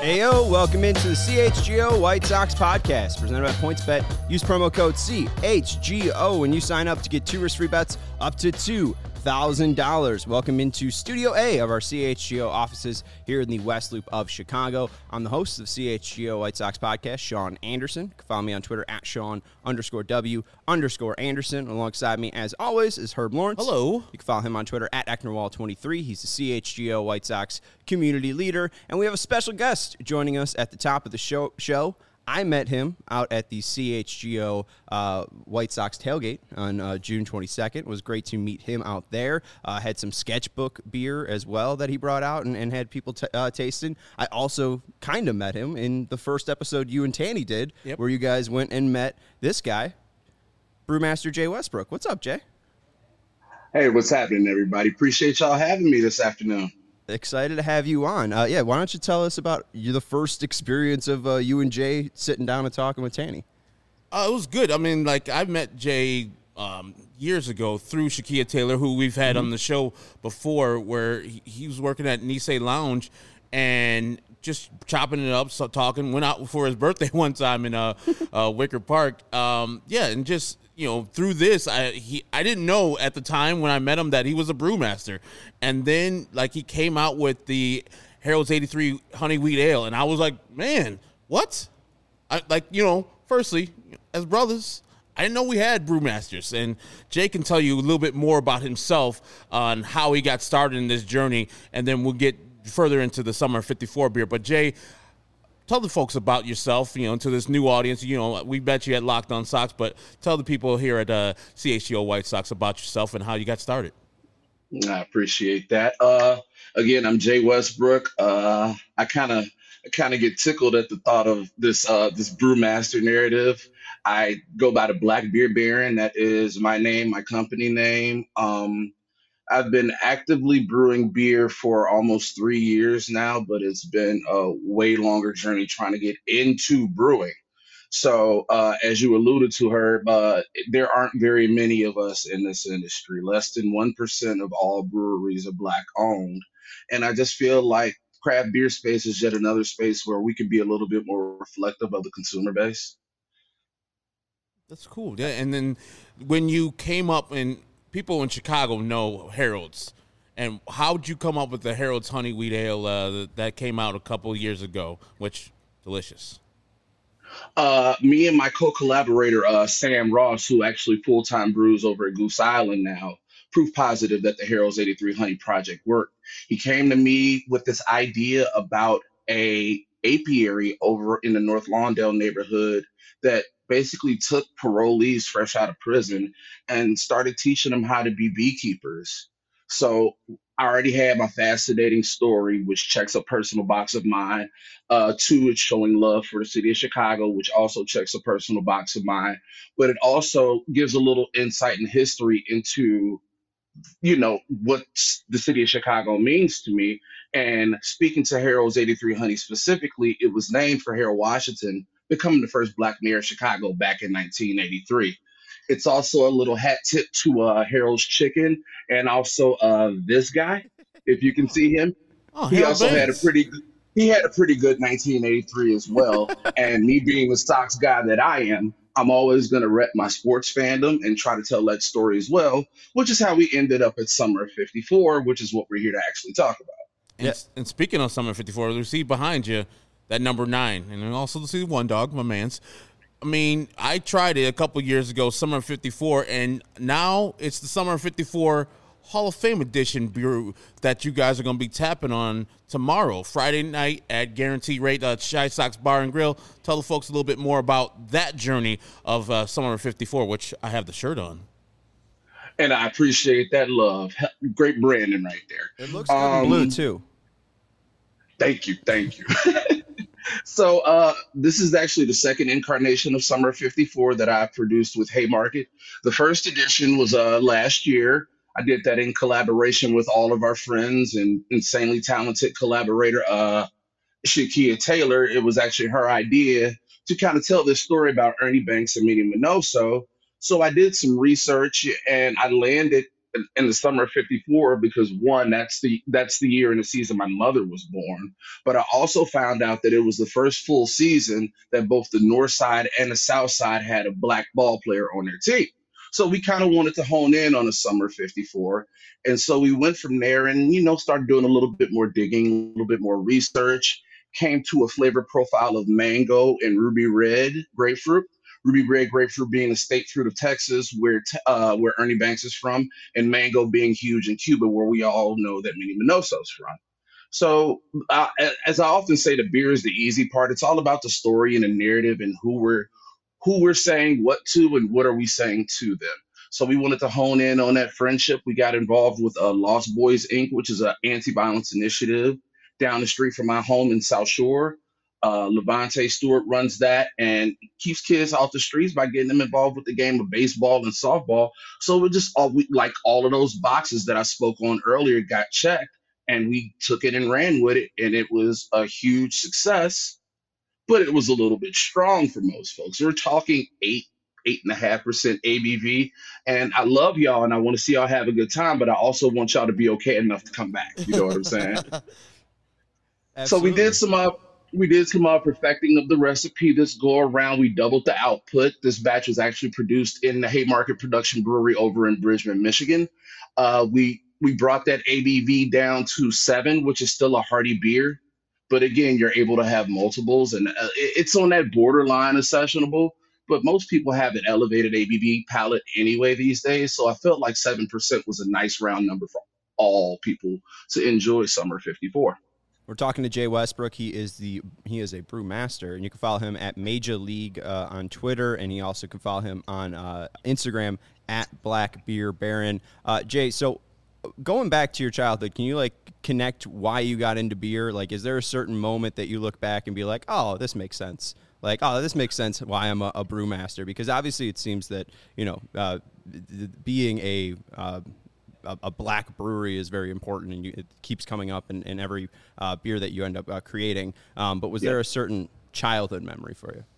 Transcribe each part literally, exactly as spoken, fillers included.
Heyo, welcome into the C H G O White Sox podcast presented by PointsBet. Use promo code C H G O when you sign up to get two risk-free bets up to two thousand dollars. Welcome into Studio A of our C H G O offices here in the West Loop of Chicago. I'm the host of C H G O White Sox podcast, Sean Anderson. You can follow me on Twitter at Sean underscore W underscore Anderson. Alongside me, as always, is Herb Lawrence. Hello. You can follow him on Twitter at Ecknerwall twenty-three. He's the C H G O White Sox community leader. And we have a special guest joining us at the top of the show. show. I met him out at the C H G O uh, White Sox tailgate on uh, June twenty-second. It was great to meet him out there. Uh, had some Sketchbook beer as well that he brought out and, and had people t- uh, tasting. I also kind of met him in the first episode you and Tanny did, yep. where you guys went and met this guy, Brewmaster Jay Westbrook. What's up, Jay? Hey, what's happening, everybody? Appreciate y'all having me this afternoon. Excited to have you on. Uh, yeah, why don't you tell us about you, the first experience of uh, you and Jay sitting down and talking with Tanny? Uh, it was good. I mean, like, I met Jay um, years ago through Shakia Taylor, who we've had mm-hmm. on the show before, where he, he was working at Nisei Lounge and just chopping it up, so talking. Went out for his birthday one time in uh, uh, Wicker Park. Um, yeah, and just, you know, through this, I he I didn't know at the time when I met him that he was a brewmaster. And then, like, he came out with the Harold's eighty-three Honey Wheat Ale, and I was like, man, what? I, like, you know, firstly, as brothers, I didn't know we had brewmasters. And Jay can tell you a little bit more about himself on how he got started in this journey, and then we'll get further into the Summer fifty-four beer. But, Jay, tell the folks about yourself, you know, to this new audience. You know, we bet you at Locked On Sox, but tell the people here at uh, C H G O White Sox about yourself and how you got started. I appreciate that. Uh, again, I'm Jay Westbrook. Uh, I kind of I kind of get tickled at the thought of this uh, this brewmaster narrative. I go by the Black Beer Baron. That is my name, my company name. Um, I've been actively brewing beer for almost three years now, but it's been a way longer journey trying to get into brewing. So uh, as you alluded to, Herb, uh, there aren't very many of us in this industry. Less than one percent of all breweries are Black owned. And I just feel like craft beer space is yet another space where we can be a little bit more reflective of the consumer base. That's cool. Yeah. And then when you came up, and people in Chicago know Harold's, and how'd you come up with the Harold's Honey Wheat Ale uh, that came out a couple years ago, which delicious? Uh, me and my co-collaborator, uh, Sam Ross, who actually full-time brews over at Goose Island now, proof positive that the Harold's eighty-three Honey project worked. He came to me with this idea about a apiary over in the North Lawndale neighborhood that basically took parolees fresh out of prison and started teaching them how to be beekeepers. So I already had my fascinating story, which checks a personal box of mine. Uh, two, it's showing love for the city of Chicago, which also checks a personal box of mine. But it also gives a little insight and history into, you know, what the city of Chicago means to me. And speaking to Harold's eighty-three Honey specifically, it was named for Harold Washington, becoming the first Black mayor of Chicago back in nineteen eighty-three. It's also a little hat tip to uh, Harold's Chicken, and also uh, this guy, if you can see him. Oh, he Harold also Baines. had a pretty good, he had a pretty good nineteen eighty-three as well. And me being the Sox guy that I am, I'm always going to rep my sports fandom and try to tell that story as well, which is how we ended up at Summer fifty-four, which is what we're here to actually talk about. And, yeah. and speaking of Summer fifty-four, you see behind you that number nine, and also to see one dog, my man's. I mean, I tried it a couple years ago, Summer fifty-four, and now it's the Summer fifty-four Hall of Fame edition beer that you guys are going to be tapping on tomorrow, Friday night at Guaranteed Rate uh, Shy Sox Bar and Grill. Tell the folks a little bit more about that journey of uh, Summer fifty-four, which I have the shirt on. And I appreciate that love. Great branding right there. It looks good um, in blue, too. Thank you. Thank you. So uh, this is actually the second incarnation of Summer fifty-four that I produced with Haymarket. The first edition was uh, last year. I did that in collaboration with all of our friends and insanely talented collaborator, uh, Shakia Taylor. It was actually her idea to kind of tell this story about Ernie Banks and Minnie Minoso. So I did some research and I landed in in the summer of 'fifty-four because one, that's the that's the year and the season my mother was born. But I also found out that it was the first full season that both the North Side and the South Side had a black ball player on their team. So we kind of wanted to hone in on the summer of 'fifty-four. And so we went from there and, you know, started doing a little bit more digging, a little bit more research, came to a flavor profile of mango and ruby red grapefruit. Ruby red grapefruit being the state fruit of Texas, where t- uh, where Ernie Banks is from, and mango being huge in Cuba, where we all know that Minnie Minoso's from. So, uh, as I often say, the beer is the easy part. It's all about the story and the narrative and who we're who we're saying what to and what are we saying to them. So we wanted to hone in on that friendship. We got involved with uh, Lost Boys Incorporated, which is an anti-violence initiative down the street from my home in South Shore. Uh, Levante Stewart runs that and keeps kids off the streets by getting them involved with the game of baseball and softball. So we just all we like all of those boxes that I spoke on earlier got checked, and we took it and ran with it, and it was a huge success. But it was a little bit strong for most folks. We're talking eight, eight and a half percent A B V, and I love y'all, and I want to see y'all have a good time. But I also want y'all to be okay enough to come back. You know what I'm saying? So we did some uh, we did some uh, perfecting of the recipe this go around. We doubled the output. This batch was actually produced in the Haymarket Production Brewery over in Bridgman, Michigan. Uh, we we brought that A B V down to seven, which is still a hearty beer. But again, you're able to have multiples, and uh, it- it's on that borderline of sessionable. But most people have an elevated A B V palate anyway these days. So I felt like seven percent was a nice round number for all people to enjoy Summer 'fifty-four. We're talking to Jay Westbrook. He is the he is a brew master, and you can follow him at Major League uh, on Twitter, and you also can follow him on uh, Instagram at Black Beer Baron. Uh, Jay, so going back to your childhood, can you like connect why you got into beer? Like, is there a certain moment that you look back and be like, oh, this makes sense? Like, oh, this makes sense why I'm a, a brewmaster? Because obviously it seems that, you know, uh, being a, uh, a a black brewery is very important, and you, it keeps coming up in, in every uh, beer that you end up uh, creating. Um, but was Yeah. there a certain childhood memory for you?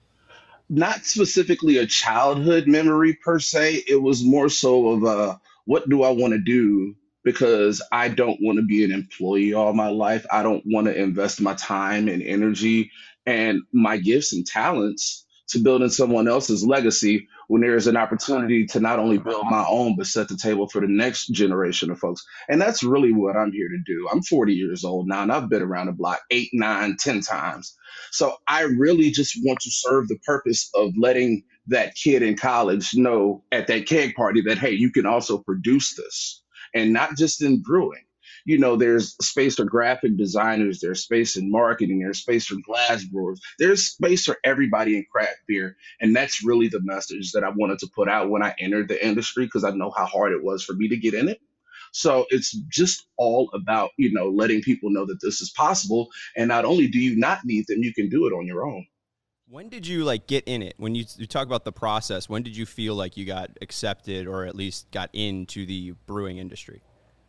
Not specifically a childhood memory per se. It was more so of uh, what do I want to do? Because I don't want to be an employee all my life. I don't want to invest my time and energy and my gifts and talents to building someone else's legacy when there is an opportunity to not only build my own, but set the table for the next generation of folks. And that's really what I'm here to do. I'm forty years old now, and I've been around the block eight, nine, ten times. So I really just want to serve the purpose of letting that kid in college know at that keg party that, hey, you can also produce this, and not just in brewing. You know, there's space for graphic designers, there's space in marketing, there's space for glass brewers, there's space for everybody in craft beer. And that's really the message that I wanted to put out when I entered the industry, because I know how hard it was for me to get in it. So it's just all about, you know, letting people know that this is possible. And not only do you not need them, you can do it on your own. When did you like get in it? When you, you talk about the process, when did you feel like you got accepted or at least got into the brewing industry?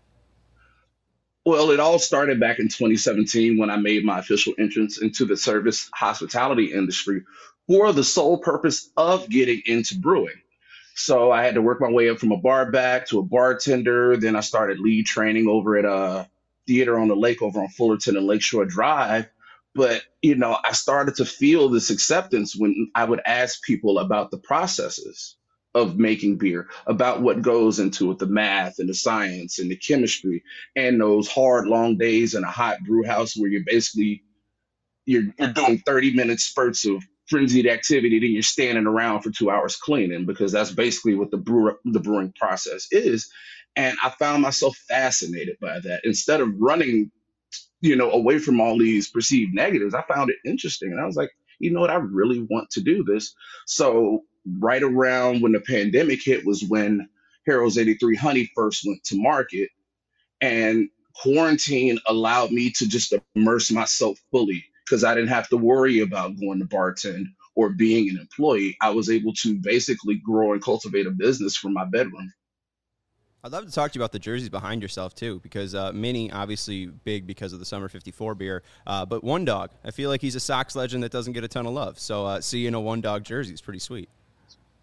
Well, it all started back in twenty seventeen when I made my official entrance into the service hospitality industry for the sole purpose of getting into brewing. So I had to work my way up from a bar back to a bartender. Then I started lead training over at a theater on the lake over on Fullerton and Lakeshore Drive. But, you know, I started to feel this acceptance when I would ask people about the processes of making beer, about what goes into it, the math and the science and the chemistry, and those hard, long days in a hot brew house where you're basically you're, you're doing thirty minute spurts of frenzied activity, then you're standing around for two hours cleaning, because that's basically what the brewer, the brewing process is. And I found myself fascinated by that. Instead of running, you know, away from all these perceived negatives, I found it interesting. And I was like, you know what, I really want to do this. So right around when the pandemic hit was when Harold's eighty-three Honey first went to market, and quarantine allowed me to just immerse myself fully, because I didn't have to worry about going to bartend or being an employee. I was able to basically grow and cultivate a business from my bedroom. I'd love to talk to you about the jerseys behind yourself, too, because uh, Minnie, obviously big because of the Summer 'fifty-four beer, uh, but One Dog, I feel like he's a Sox legend that doesn't get a ton of love. So uh, seeing a One Dog jersey is pretty sweet.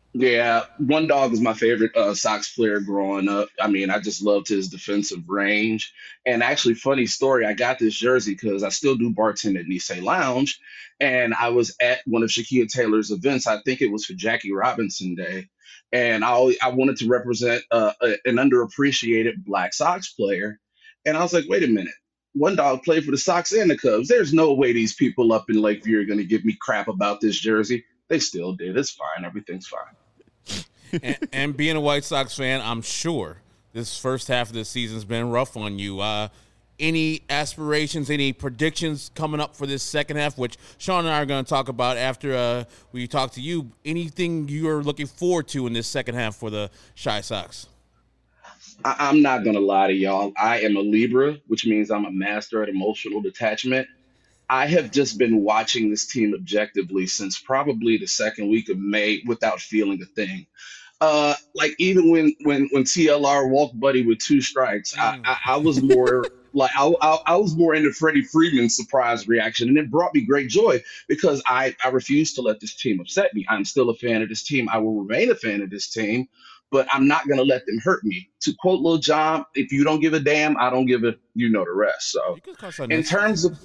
Yeah, One Dog was my favorite uh, Sox player growing up. I mean, I just loved his defensive range. And actually, funny story, I got this jersey because I still do bartend at Nisei Lounge, and I was at one of Shaquille Taylor's events. I think it was for Jackie Robinson Day, and I always, I wanted to represent uh, a, an underappreciated Black Sox player. And I was like, wait a minute. One Dog played for the Sox and the Cubs. There's no way these people up in Lakeview are going to give me crap about this jersey. They still did. It's fine. Everything's fine. and, and being a White Sox fan, I'm sure this first half of the season's been rough on you. Uh, any aspirations, any predictions coming up for this second half, which Sean and I are going to talk about after uh, we talk to you? Anything you're looking forward to in this second half for the Chi Sox? I, I'm not gonna lie to y'all. I am a Libra, which means I'm a master at emotional detachment. I have just been watching this team objectively since probably the second week of May without feeling a thing. Uh, like even when when when T L R walked Buddy with two strikes, I Mm. I, I was more like I, I I was more into Freddie Freeman's surprise reaction, and it brought me great joy because I I refuse to let this team upset me. I'm still a fan of this team. I will remain a fan of this team, but I'm not gonna let them hurt me. To quote Lil Jon, if you don't give a damn, I don't give a you know the rest. So You could cuss on in this. terms of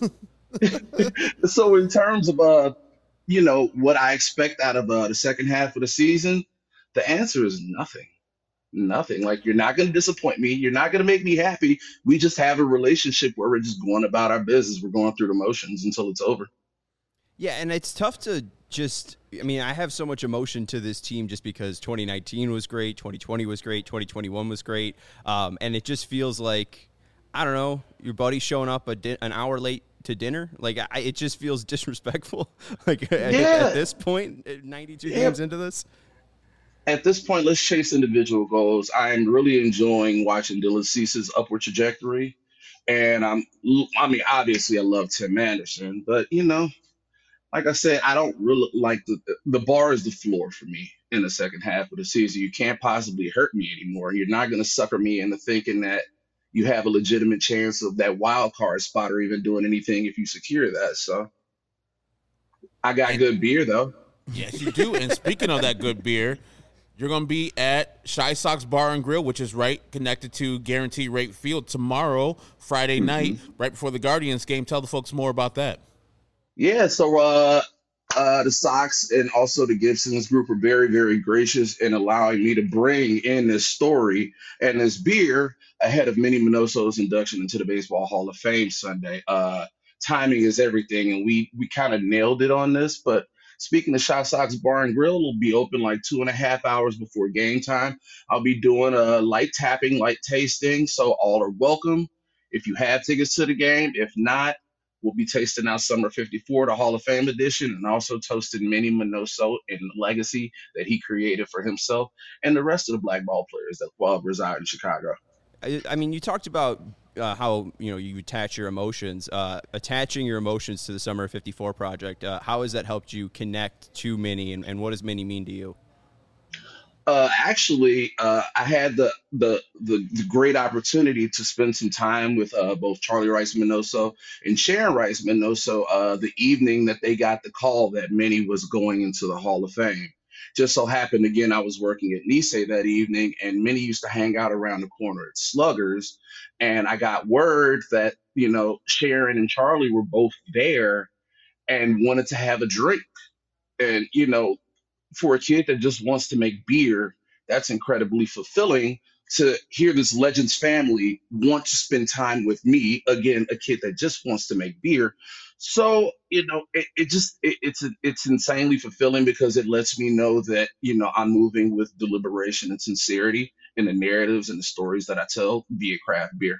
so in terms of uh you know what I expect out of uh, the second half of the season, the answer is nothing. Nothing. Like you're not going to disappoint me. You're not going to make me happy. We just have a relationship where we're just going about our business. We're going through the motions until it's over. Yeah, and it's tough to just – I mean, I have so much emotion to this team just because twenty nineteen was great, twenty twenty was great, twenty twenty-one was great, um, and it just feels like, I don't know, your buddy showing up a di- an hour late to dinner. Like, I, it just feels disrespectful, like, at, Yeah. at this point, ninety-two Yeah. games into this. At this point, let's chase individual goals. I'm really enjoying watching Dylan Cease's upward trajectory. And I'm, I mean, obviously, I love Tim Anderson, but you know, like I said, I don't really like the the bar is the floor for me in the second half of the season. You can't possibly hurt me anymore. You're not going to sucker me into thinking that you have a legitimate chance of that wild card spot or even doing anything if you secure that. So I got And good beer though. yes, you do. And speaking of that good beer, you're going to be at Chi Sox Bar and Grill, which is right connected to Guaranteed Rate Field tomorrow, Friday night, right before the Guardians game. Tell the folks more about that. Yeah, so uh, uh, the Sox and also the Gibsons group are very, very gracious in allowing me to bring in this story and this beer ahead of Minnie Minoso's induction into the Baseball Hall of Fame Sunday. Uh, timing is everything, and we we kind of nailed it on this. But speaking of Shot Sox Bar and Grill, will be open like two and a half hours before game time. I'll be doing a light tapping, light tasting, so all are welcome. If you have tickets to the game, if not, we'll be tasting out Summer fifty-four, the Hall of Fame edition, and also toasting Manny Minoso and the legacy that he created for himself and the rest of the black ball players that uh, reside in Chicago. I, I mean, you talked about uh, how, you know, you attach your emotions, uh, attaching your emotions to the Summer fifty-four project. Uh, how has that helped you connect to Minnie, and, and what does Minnie mean to you? Uh, actually, uh, I had the, the the the great opportunity to spend some time with uh, both Charlie Rice Minoso and Sharon Rice Minoso uh, the evening that they got the call that Minnie was going into the Hall of Fame. Just so happened, again, I was working at Nisei that evening, and Minnie used to hang out around the corner at Sluggers, and I got word that you know Sharon and Charlie were both there and wanted to have a drink, and you know for a kid that just wants to make beer, that's incredibly fulfilling to hear this Legends family want to spend time with me. Again, a kid that just wants to make beer. So, you know, it, it just, it, it's, it's insanely fulfilling because it lets me know that, you know, I'm moving with deliberation and sincerity in the narratives and the stories that I tell via craft beer.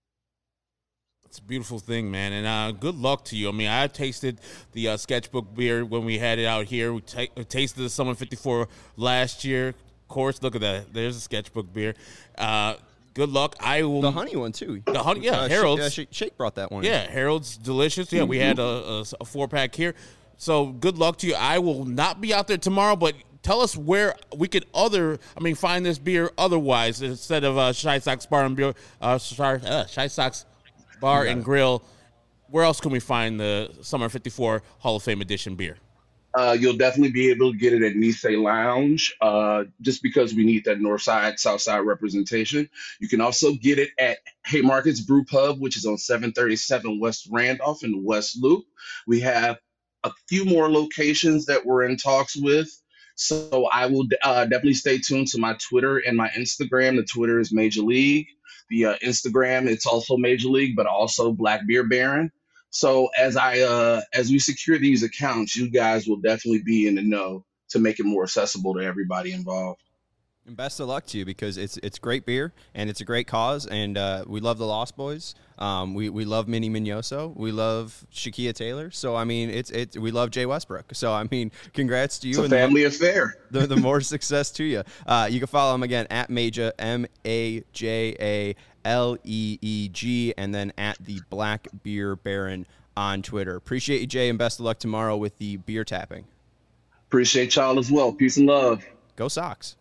It's a beautiful thing, man, and uh, good luck to you. I mean, I tasted the uh, sketchbook beer when we had it out here. We ta- tasted the Summer fifty-four last year. Of course, look at that. There's a sketchbook beer. Uh, good luck. I will. The honey one, too. The honey, yeah, Uh, Sh- Harold's. uh, Sh- Shake brought that one. Yeah, Harold's delicious. Yeah, we had a, a, a four pack here. So good luck to you. I will not be out there tomorrow, but tell us where we could other. I mean, find this beer otherwise instead of uh, Chi Sox Bar and Beer. Uh, sorry, uh, Chi Sox Bar and Grill. Where else can we find the Summer fifty-four Hall of Fame edition beer? Uh, you'll definitely be able to get it at Nisei Lounge, uh, just because we need that north side, south side representation. You can also get it at Haymarket's Brew Pub, which is on seven thirty-seven West Randolph in the West Loop. We have a few more locations that we're in talks with. So I will uh, definitely stay tuned to my Twitter and my Instagram. The Twitter is Major League. The uh, Instagram, it's also Major League, but also Black Beer Baron. So as I uh as we secure these accounts, you guys will definitely be in the know to make it more accessible to everybody involved. And best of luck to you, because it's it's great beer and it's a great cause, and uh, we love the Lost Boys. Um, we we love Minnie Mignoso. We love Shakia Taylor. So I mean, it's it's we love Jay Westbrook. So I mean, congrats to you. It's a and family the, affair. The, the more success to you. Uh, you can follow him again at Maja, M A J A L E E G, and then at the Black Beer Baron on Twitter. Appreciate you, Jay, and best of luck tomorrow with the beer tapping. Appreciate y'all as well. Peace and love. Go Sox.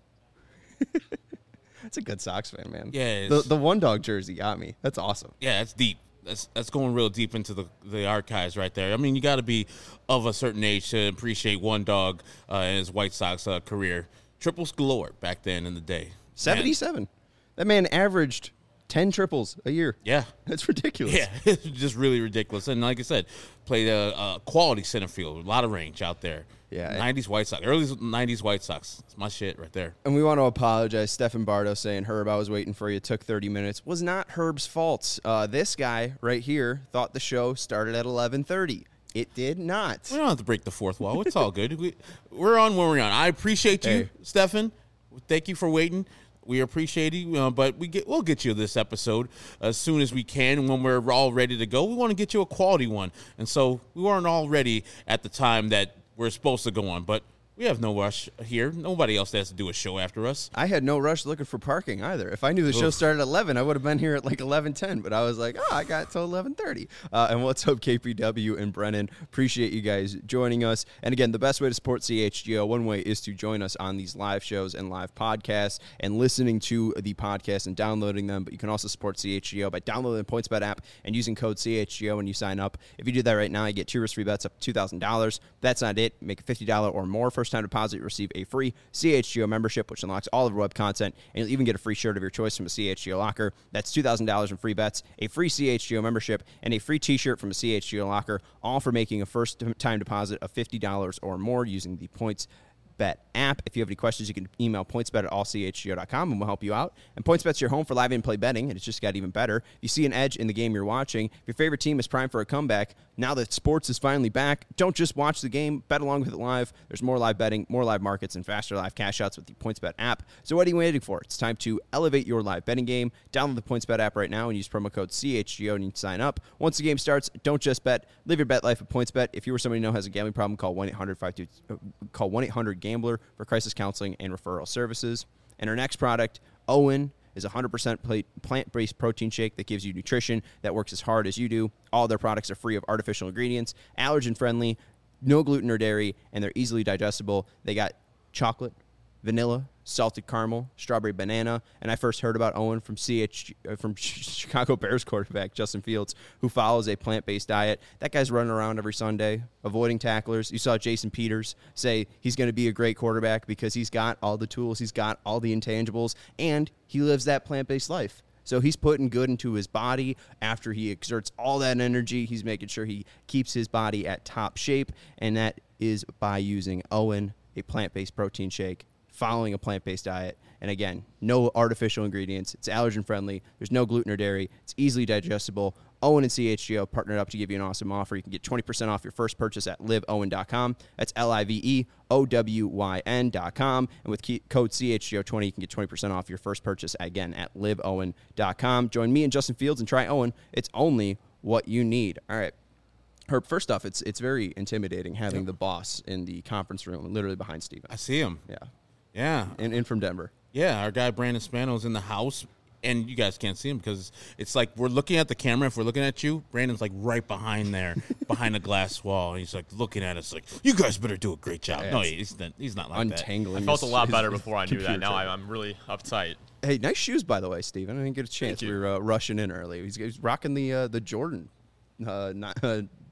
That's a good Sox fan, man. Yeah, the the one dog jersey got me. That's awesome. Yeah, that's deep. That's that's going real deep into the the archives right there. I mean, you got to be of a certain age to appreciate one dog uh, in his White Sox uh, career. Triples galore back then in the day. seventy-seven. Man. That man averaged ten triples a year. Yeah. That's ridiculous. Yeah, it's just really ridiculous. And like I said, played a, a quality center field, a lot of range out there. Yeah. nineties White Sox, early nineties White Sox. It's my shit right there. And we want to apologize. Stephen Bardo saying, Herb, I was waiting for you. It took thirty minutes. Was not Herb's fault. Uh, this guy right here thought the show started at eleven thirty. It did not. We don't have to break the fourth wall. It's all good. We, we're on where we're on. I appreciate you, Hey. Stephen. Thank you for waiting. We appreciate you, uh, but we get we'll get you this episode as soon as we can. When we're all ready to go, we want to get you a quality one. And so we weren't all ready at the time that we're supposed to go on, but we have no rush here. Nobody else has to do a show after us. I had no rush looking for parking either. If I knew the show Oof. started at eleven, I would have been here at like eleven ten. But I was like, oh, I got till eleven thirty. Uh, and what's up, K P W and Brennan? Appreciate you guys joining us. And again, the best way to support C H G O, one way is to join us on these live shows and live podcasts and listening to the podcast and downloading them. But you can also support C H G O by downloading the PointsBet app and using code C H G O when you sign up. If you do that right now, you get two risk-free bets up to two thousand dollars. That's not it. Make a fifty dollars or more first-time deposit. Receive a free C H G O membership, which unlocks all of our web content, and you'll even get a free shirt of your choice from a C H G O locker. That's two thousand dollars in free bets, a free C H G O membership, and a free t-shirt from a C H G O locker, all for making a first-time deposit of fifty dollars or more using the Points Bet app. If you have any questions, you can email pointsbet at all c h g o dot com and we'll help you out. And PointsBet's your home for live in-play betting, and it's just got even better. If you see an edge in the game you're watching, if your favorite team is primed for a comeback, now that sports is finally back, don't just watch the game, bet along with it live. There's more live betting, more live markets, and faster live cash outs with the PointsBet app. So what are you waiting for? It's time to elevate your live betting game. Download the PointsBet app right now and use promo code C H G O and you can sign up. Once the game starts, don't just bet. Live your bet life with PointsBet. If you or somebody you know has a gambling problem, call one eight hundred five two call one eight hundred gambler for crisis counseling and referral services. And our next product, Owen, is a one hundred percent plant-based protein shake that gives you nutrition that works as hard as you do. All their products are free of artificial ingredients, allergen-friendly, no gluten or dairy, and they're easily digestible. They got chocolate, vanilla, salted caramel, strawberry banana, and I first heard about Owen from C H uh, from Chicago Bears quarterback Justin Fields, who follows a plant-based diet. That guy's running around every Sunday, avoiding tacklers. You saw Jason Peters say he's going to be a great quarterback because he's got all the tools, he's got all the intangibles, and he lives that plant-based life. So he's putting good into his body after he exerts all that energy. He's making sure he keeps his body at top shape, and that is by using Owen, a plant-based protein shake, following a plant-based diet. And again, no artificial ingredients. It's allergen-friendly. There's no gluten or dairy. It's easily digestible. Owen and C H G O partnered up to give you an awesome offer. You can get twenty percent off your first purchase at live owen dot com. That's L I V E O W Y N dot com. And with key, code C H G O twenty, you can get twenty percent off your first purchase, again, at live owen dot com. Join me and Justin Fields and try Owen. It's only what you need. All right. Herb, first off, it's it's very intimidating having the boss in the conference room, literally behind Steven. I see him. Yeah. Yeah. And in from Denver. Yeah, our guy Brandon Spano's in the house, and you guys can't see him because it's like we're looking at the camera. If we're looking at you, Brandon's like right behind there, behind a glass wall. And he's like looking at us like, you guys better do a great job. Yeah, no, he's not, he's not like untangling. I felt a his- lot his better before I knew computer that. Now tray. I, I'm really uptight. Hey, nice shoes, by the way, Steven. I didn't get a chance. Thank We you. were uh, rushing in early. He's, he's rocking the uh, the Jordan uh, not, uh,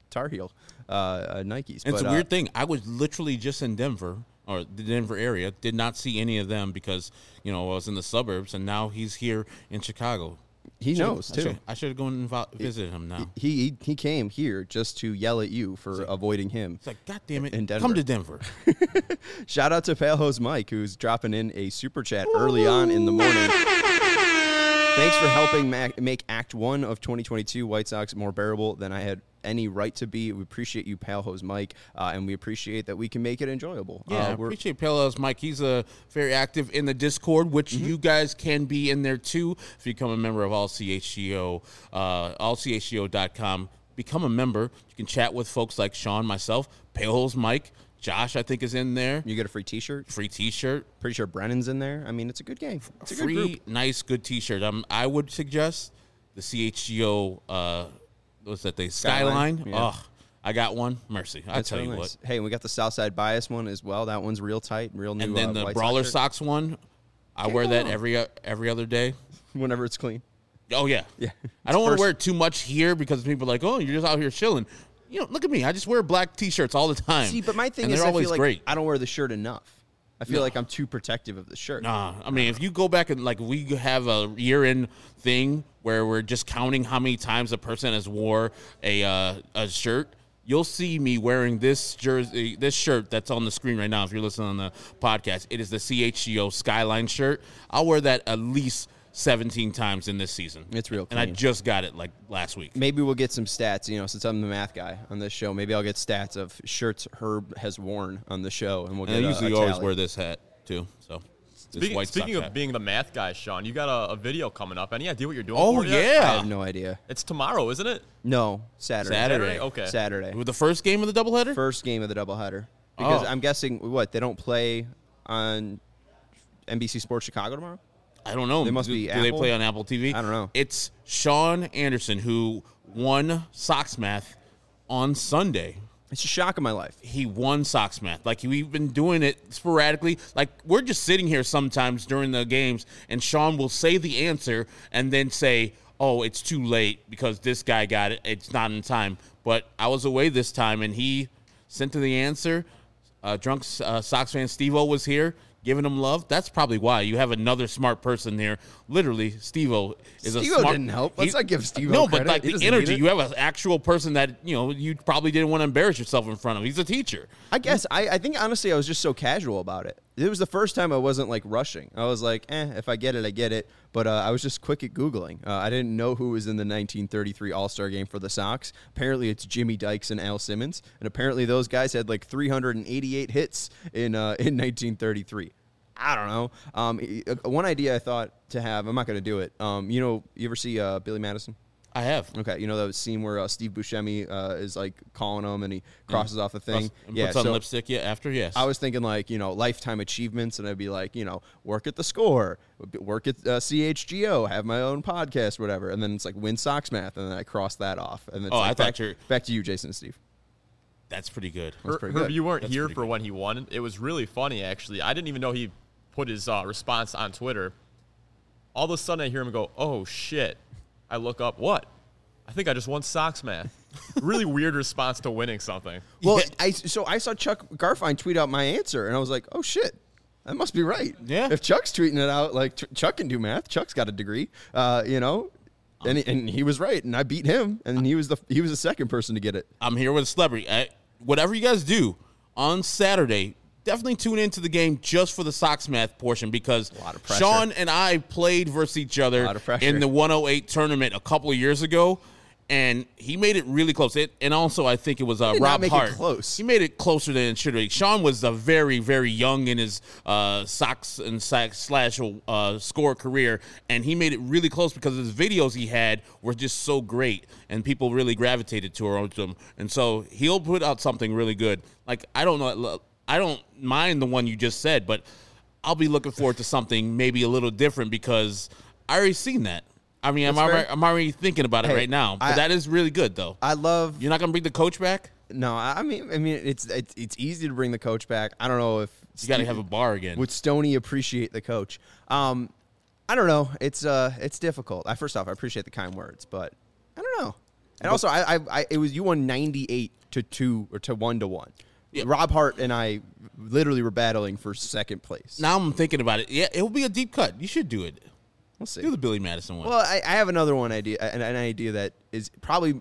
Tar Heel uh, uh, Nikes. It's but, a uh, weird thing. I was literally just in Denver, or the Denver area, did not see any of them because, you know, I was in the suburbs, and now he's here in Chicago. He Should've- knows, I too. should- I should have gone and vo- visited him now. He, he he came here just to yell at you for avoiding him. It's like, God damn it, in Denver. come to Denver. Shout out to Palehose Mike, who's dropping in a super chat early on in the morning. Thanks for helping ma- make Act One of twenty twenty-two White Sox more bearable than I had any right to be. We appreciate you, Palehose Mike, uh, and we appreciate that we can make it enjoyable. Yeah, uh, I we're- appreciate Paleos Mike. He's uh, very active in the Discord, which Mm-hmm. you guys can be in there too if you become a member of All C H G O, uh, all C H G O dot com. Become a member. You can chat with folks like Sean, myself, Paleos Mike, Josh, I think, is in there. You get a free T-shirt. Free T-shirt. Pretty sure Brennan's in there. I mean, it's a good game. It's a good Free, group. nice, good T-shirt. Um, I would suggest the C H G O, uh, what's that thing? Skyline, Skyline. yeah. Oh, I got one. Mercy. I That's tell real you nice. what. Hey, and we got the Southside Bias one as well. That one's real tight, real new. And then uh, the White Brawler Sox Socks one, I Can't wear go that wrong. every uh, every other day. shirt, whenever it's clean. Oh yeah, Yeah. I don't want First- to wear it too much here because people are like, "Oh, you're just out here chilling." You know, look at me. I just wear black T-shirts all the time. See, but my thing and is, they're I always feel like great. I don't wear the shirt enough. I feel No. like I'm too protective of the shirt. Nah, I mean, if you go back and like we have a year-end thing where we're just counting how many times a person has wore a uh, a shirt, you'll see me wearing this jersey, this shirt that's on the screen right now. If you're listening on the podcast, it is the C H G O Skyline shirt. I'll wear that at least seventeen times in this season. It's real and I clean. just got it like last week. Maybe we'll get some stats, you know, since I'm the math guy on this show. Maybe I'll get stats of shirts Herb has worn on the show, and we'll And get I a- usually a always tally. wear this hat too. So this Speaking, White speaking Sox of hat. being the math guy, Sean, you got a, a video coming up. Any idea what you're doing? Oh for it yet? yeah, I have no idea. It's tomorrow, isn't it? No, Saturday. Saturday. Okay. Saturday. With the first game of the doubleheader. First game of the doubleheader. Because Oh. I'm guessing, what, they don't play on N B C Sports Chicago tomorrow? I don't know. They must do, be Do they Apple? play on Apple T V? I don't know. It's Sean Anderson who won Sox Math on Sunday. It's a shock in my life. He won Sox Math. Like, we've been doing it sporadically. Like, we're just sitting here sometimes during the games, and Sean will say the answer and then say, oh, it's too late because this guy got it. It's not in time. But I was away this time, and he sent to the answer. Uh, drunk uh, Sox fan Steve-O was here giving him love. That's probably why. You have another smart person here. Literally, Steve-O is a Steve-O smart... didn't help. Let's he- not give Steve-O No, but credit. like He the doesn't need energy. it. You have an actual person that, you know, you probably didn't want to embarrass yourself in front of. He's a teacher. I guess. I, I think, honestly, I was just so casual about it. It was the first time I wasn't, like, rushing. I was like, eh, if I get it, I get it. But uh, I was just quick at Googling. Uh, I didn't know who was in the nineteen thirty-three All-Star game for the Sox. Apparently, it's Jimmy Dykes and Al Simmons. And apparently, those guys had, like, three hundred eighty-eight hits in uh, in nineteen thirty-three. I don't know. Um, uh, one idea I thought to have, I'm not going to do it. Um, you know, you ever see uh, Billy Madison? I have. Okay, you know that scene where uh, Steve Buscemi uh, is like calling him and he crosses off the thing. And yeah, puts on so lipstick, yeah, after, yes. I was thinking like, you know, lifetime achievements, and I'd be like, you know, work at the Score, work at uh, C H G O, have my own podcast, whatever, and then it's like win Sox Math, and then I cross that off, and it's Oh, like I thought back, you're- back to you, Jason and Steve. That's pretty good. That's Her- pretty Herb, good. you weren't That's here pretty for good. when he won. It was really funny, actually. I didn't even know he put his uh, response on Twitter. All of a sudden, I hear him go, "Oh shit!" I look up, what? I think I just won Sox Math. Really weird response to winning something. Well, Yeah. I so I saw Chuck Garfien tweet out my answer, and I was like, oh shit. That must be right. Yeah. If Chuck's tweeting it out, like Ch- Chuck can do math. Chuck's got a degree. Uh, you know, and he, and he was right, and I beat him, and he was the he was the second person to get it. I'm here with a celebrity. I, whatever you guys do on Saturday, definitely tune into the game just for the Sox Math portion because lot of pressure. Sean and I played versus each other Lot of pressure. in the one oh eight tournament a couple of years ago, and he made it really close. It, and also, I think it was uh, did not Rob make it Hart. close. He made it closer than it should have. Sean was uh, very, very young in his uh, Sox and Sox slash uh, score career, and he made it really close because his videos he had were just so great, and people really gravitated to him. And so he'll put out something really good. Like I don't know, I don't mind the one you just said, but I'll be looking forward to something maybe a little different because I already seen that. I mean, I'm That's already, fair. I'm already thinking about it Hey, right now. But I- that is really good, though. I love. You're not gonna bring the coach back. No, I mean, I mean, it's it's it's easy to bring the coach back. I don't know if You got to have a bar again. would Stoney appreciate the coach. Um, I don't know. It's uh, it's difficult. I first off, I appreciate the kind words, but I don't know. And also, I, I, I, it was you won ninety-eight to two or to one to one. Yeah. Rob Hart and I literally were battling for second place. Now I'm thinking about it. Yeah, it will be a deep cut. You should do it. We'll see. Do the Billy Madison one. Well, I, I have another one idea, an, an idea that is probably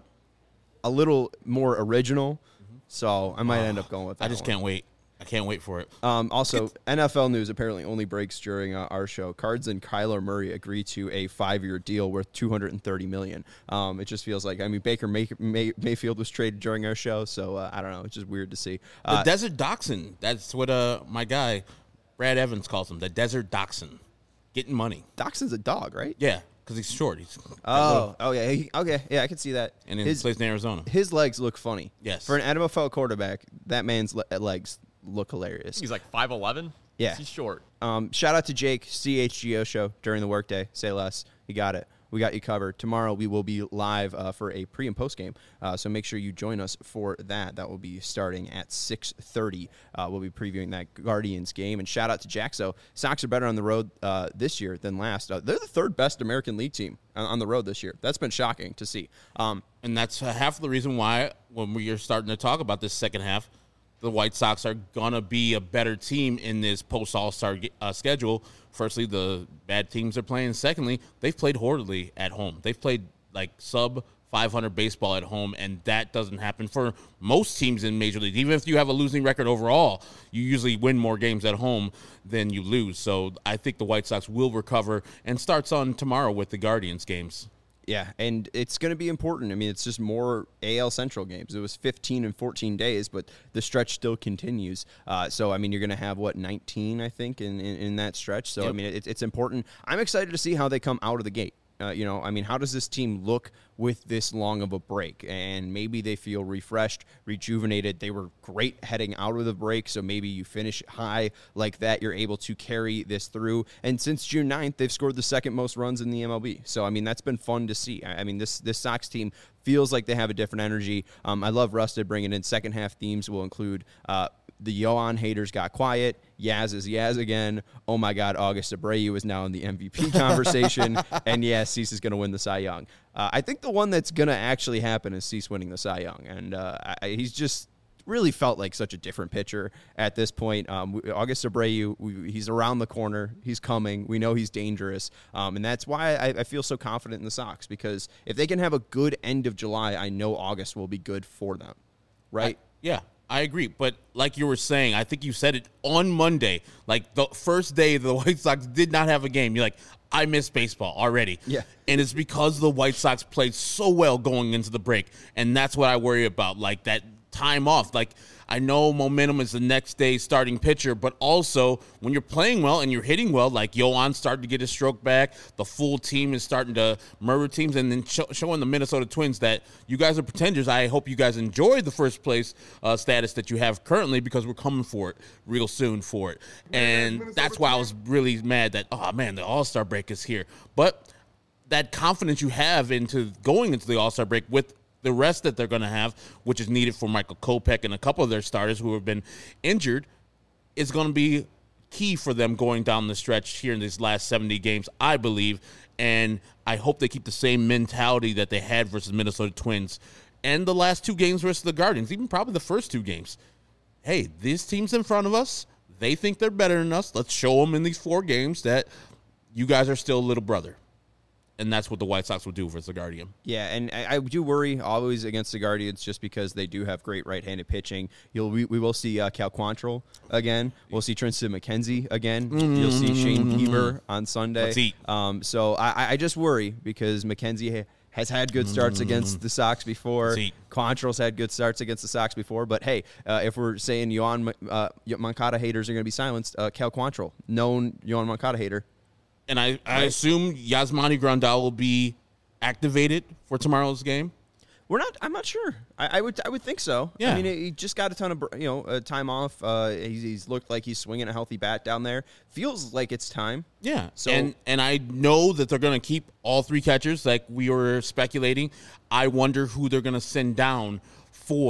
a little more original. Mm-hmm. So I might oh, end up going with that. I just one. can't wait. I can't wait for it. Um, also, N F L news apparently only breaks during uh, our show. Cards and Kyler Murray agree to a five-year deal worth two hundred thirty million dollars. Um, it just feels like, I mean, Baker May- May- Mayfield was traded during our show, so uh, I don't know. It's just weird to see. Uh, the Desert Dachshund. That's what uh, my guy, Brad Evans, calls him. The Desert Dachshund. Getting money. Dachshund's a dog, right? Yeah, because he's short. He's oh, little, oh yeah. He, okay, yeah, I can see that. And he his, plays in Arizona. His legs look funny. Yes. For an N F L quarterback, that man's le- legs look hilarious. He's like five eleven. Yeah. He's short. Um, shout out to Jake, C H G O show during the workday. Say less. You got it. We got you covered. Tomorrow we will be live uh, for a pre and post game, uh, so make sure you join us for that. That will be starting at six thirty. Uh, we'll be previewing that Guardians game. And shout out to Jaxo. Sox are better on the road uh, this year than last. Uh, they're the third best American League team on, on the road this year. That's been shocking to see. Um, and that's half the reason why when we are starting to talk about this second half, the White Sox are going to be a better team in this post-All-Star uh, schedule. Firstly, the bad teams are playing. Secondly, they've played horribly at home. They've played like sub five hundred baseball at home, and that doesn't happen for most teams in Major League. Even if you have a losing record overall, you usually win more games at home than you lose. So I think the White Sox will recover and starts on tomorrow with the Guardians games. Yeah, and it's going to be important. I mean, it's just more A L Central games. It was fifteen and fourteen days, but the stretch still continues. Uh, so, I mean, you're going to have, what, nineteen, I think, in, in, in that stretch. So, yep. I mean, it, it's important. I'm excited to see how they come out of the gate. Uh, you know, I mean, how does this team look with this long of a break? And maybe they feel refreshed, rejuvenated. They were great heading out of the break, so maybe you finish high like that. You're able to carry this through. And since June ninth, they've scored the second most runs in the M L B. So, I mean, that's been fun to see. I mean, this this Sox team feels like they have a different energy. Um, I love Rusted bringing in second half themes will include uh, the Yohan haters got quiet. Yaz is Yaz again. Oh, my God, August Abreu is now in the M V P conversation. And, yeah, Cease is going to win the Cy Young. Uh, I think the one that's going to actually happen is Cease winning the Cy Young. And uh, I, he's just really felt like such a different pitcher at this point. Um, August Abreu, we, he's around the corner. He's coming. We know he's dangerous. Um, and that's why I, I feel so confident in the Sox, because if they can have a good end of July, I know August will be good for them. Right? I, yeah. I agree, but like you were saying, I think you said it on Monday, like the first day the White Sox did not have a game. You're like, I miss baseball already. Yeah. And it's because the White Sox played so well going into the break, and that's what I worry about, like that time off. Like, I know momentum is the next day starting pitcher, but also when you're playing well and you're hitting well, like Yohan started to get his stroke back, the full team is starting to murder teams, and then show, showing the Minnesota Twins that you guys are pretenders. I hope you guys enjoy the first place uh, status that you have currently, because we're coming for it real soon for it. And that's why I was really mad that, oh, man, the All-Star break is here. But that confidence you have into going into the All-Star break with the rest that they're going to have, which is needed for Michael Kopech and a couple of their starters who have been injured, is going to be key for them going down the stretch here in these last seventy games, I believe. And I hope they keep the same mentality that they had versus Minnesota Twins and the last two games versus the Guardians, even probably the first two games. Hey, these teams in front of us, they think they're better than us. Let's show them in these four games that you guys are still a little brother. And that's what the White Sox will do versus the Guardian. Yeah, and I, I do worry always against the Guardians just because they do have great right-handed pitching. You'll we, we will see uh, Cal Quantrill again. We'll see Tristan McKenzie again. Mm-hmm. You'll see Shane Bieber on Sunday. Let's eat. Um, so I, I just worry because McKenzie ha- has had good starts mm-hmm. against the Sox before. Let's eat. Quantrill's had good starts against the Sox before. But, hey, uh, if we're saying Yohan uh, Moncada haters are going to be silenced, uh, Cal Quantrill, known Yohan Moncada hater. And I, I assume Yasmani Grandal will be activated for tomorrow's game. We're not. I'm not sure. I, I would. I would think so. Yeah. I mean, he just got a ton of you know uh, time off. Uh, he's, he's looked like he's swinging a healthy bat down there. Feels like it's time. Yeah. So and and I know that they're going to keep all three catchers, like we were speculating. I wonder who they're going to send down for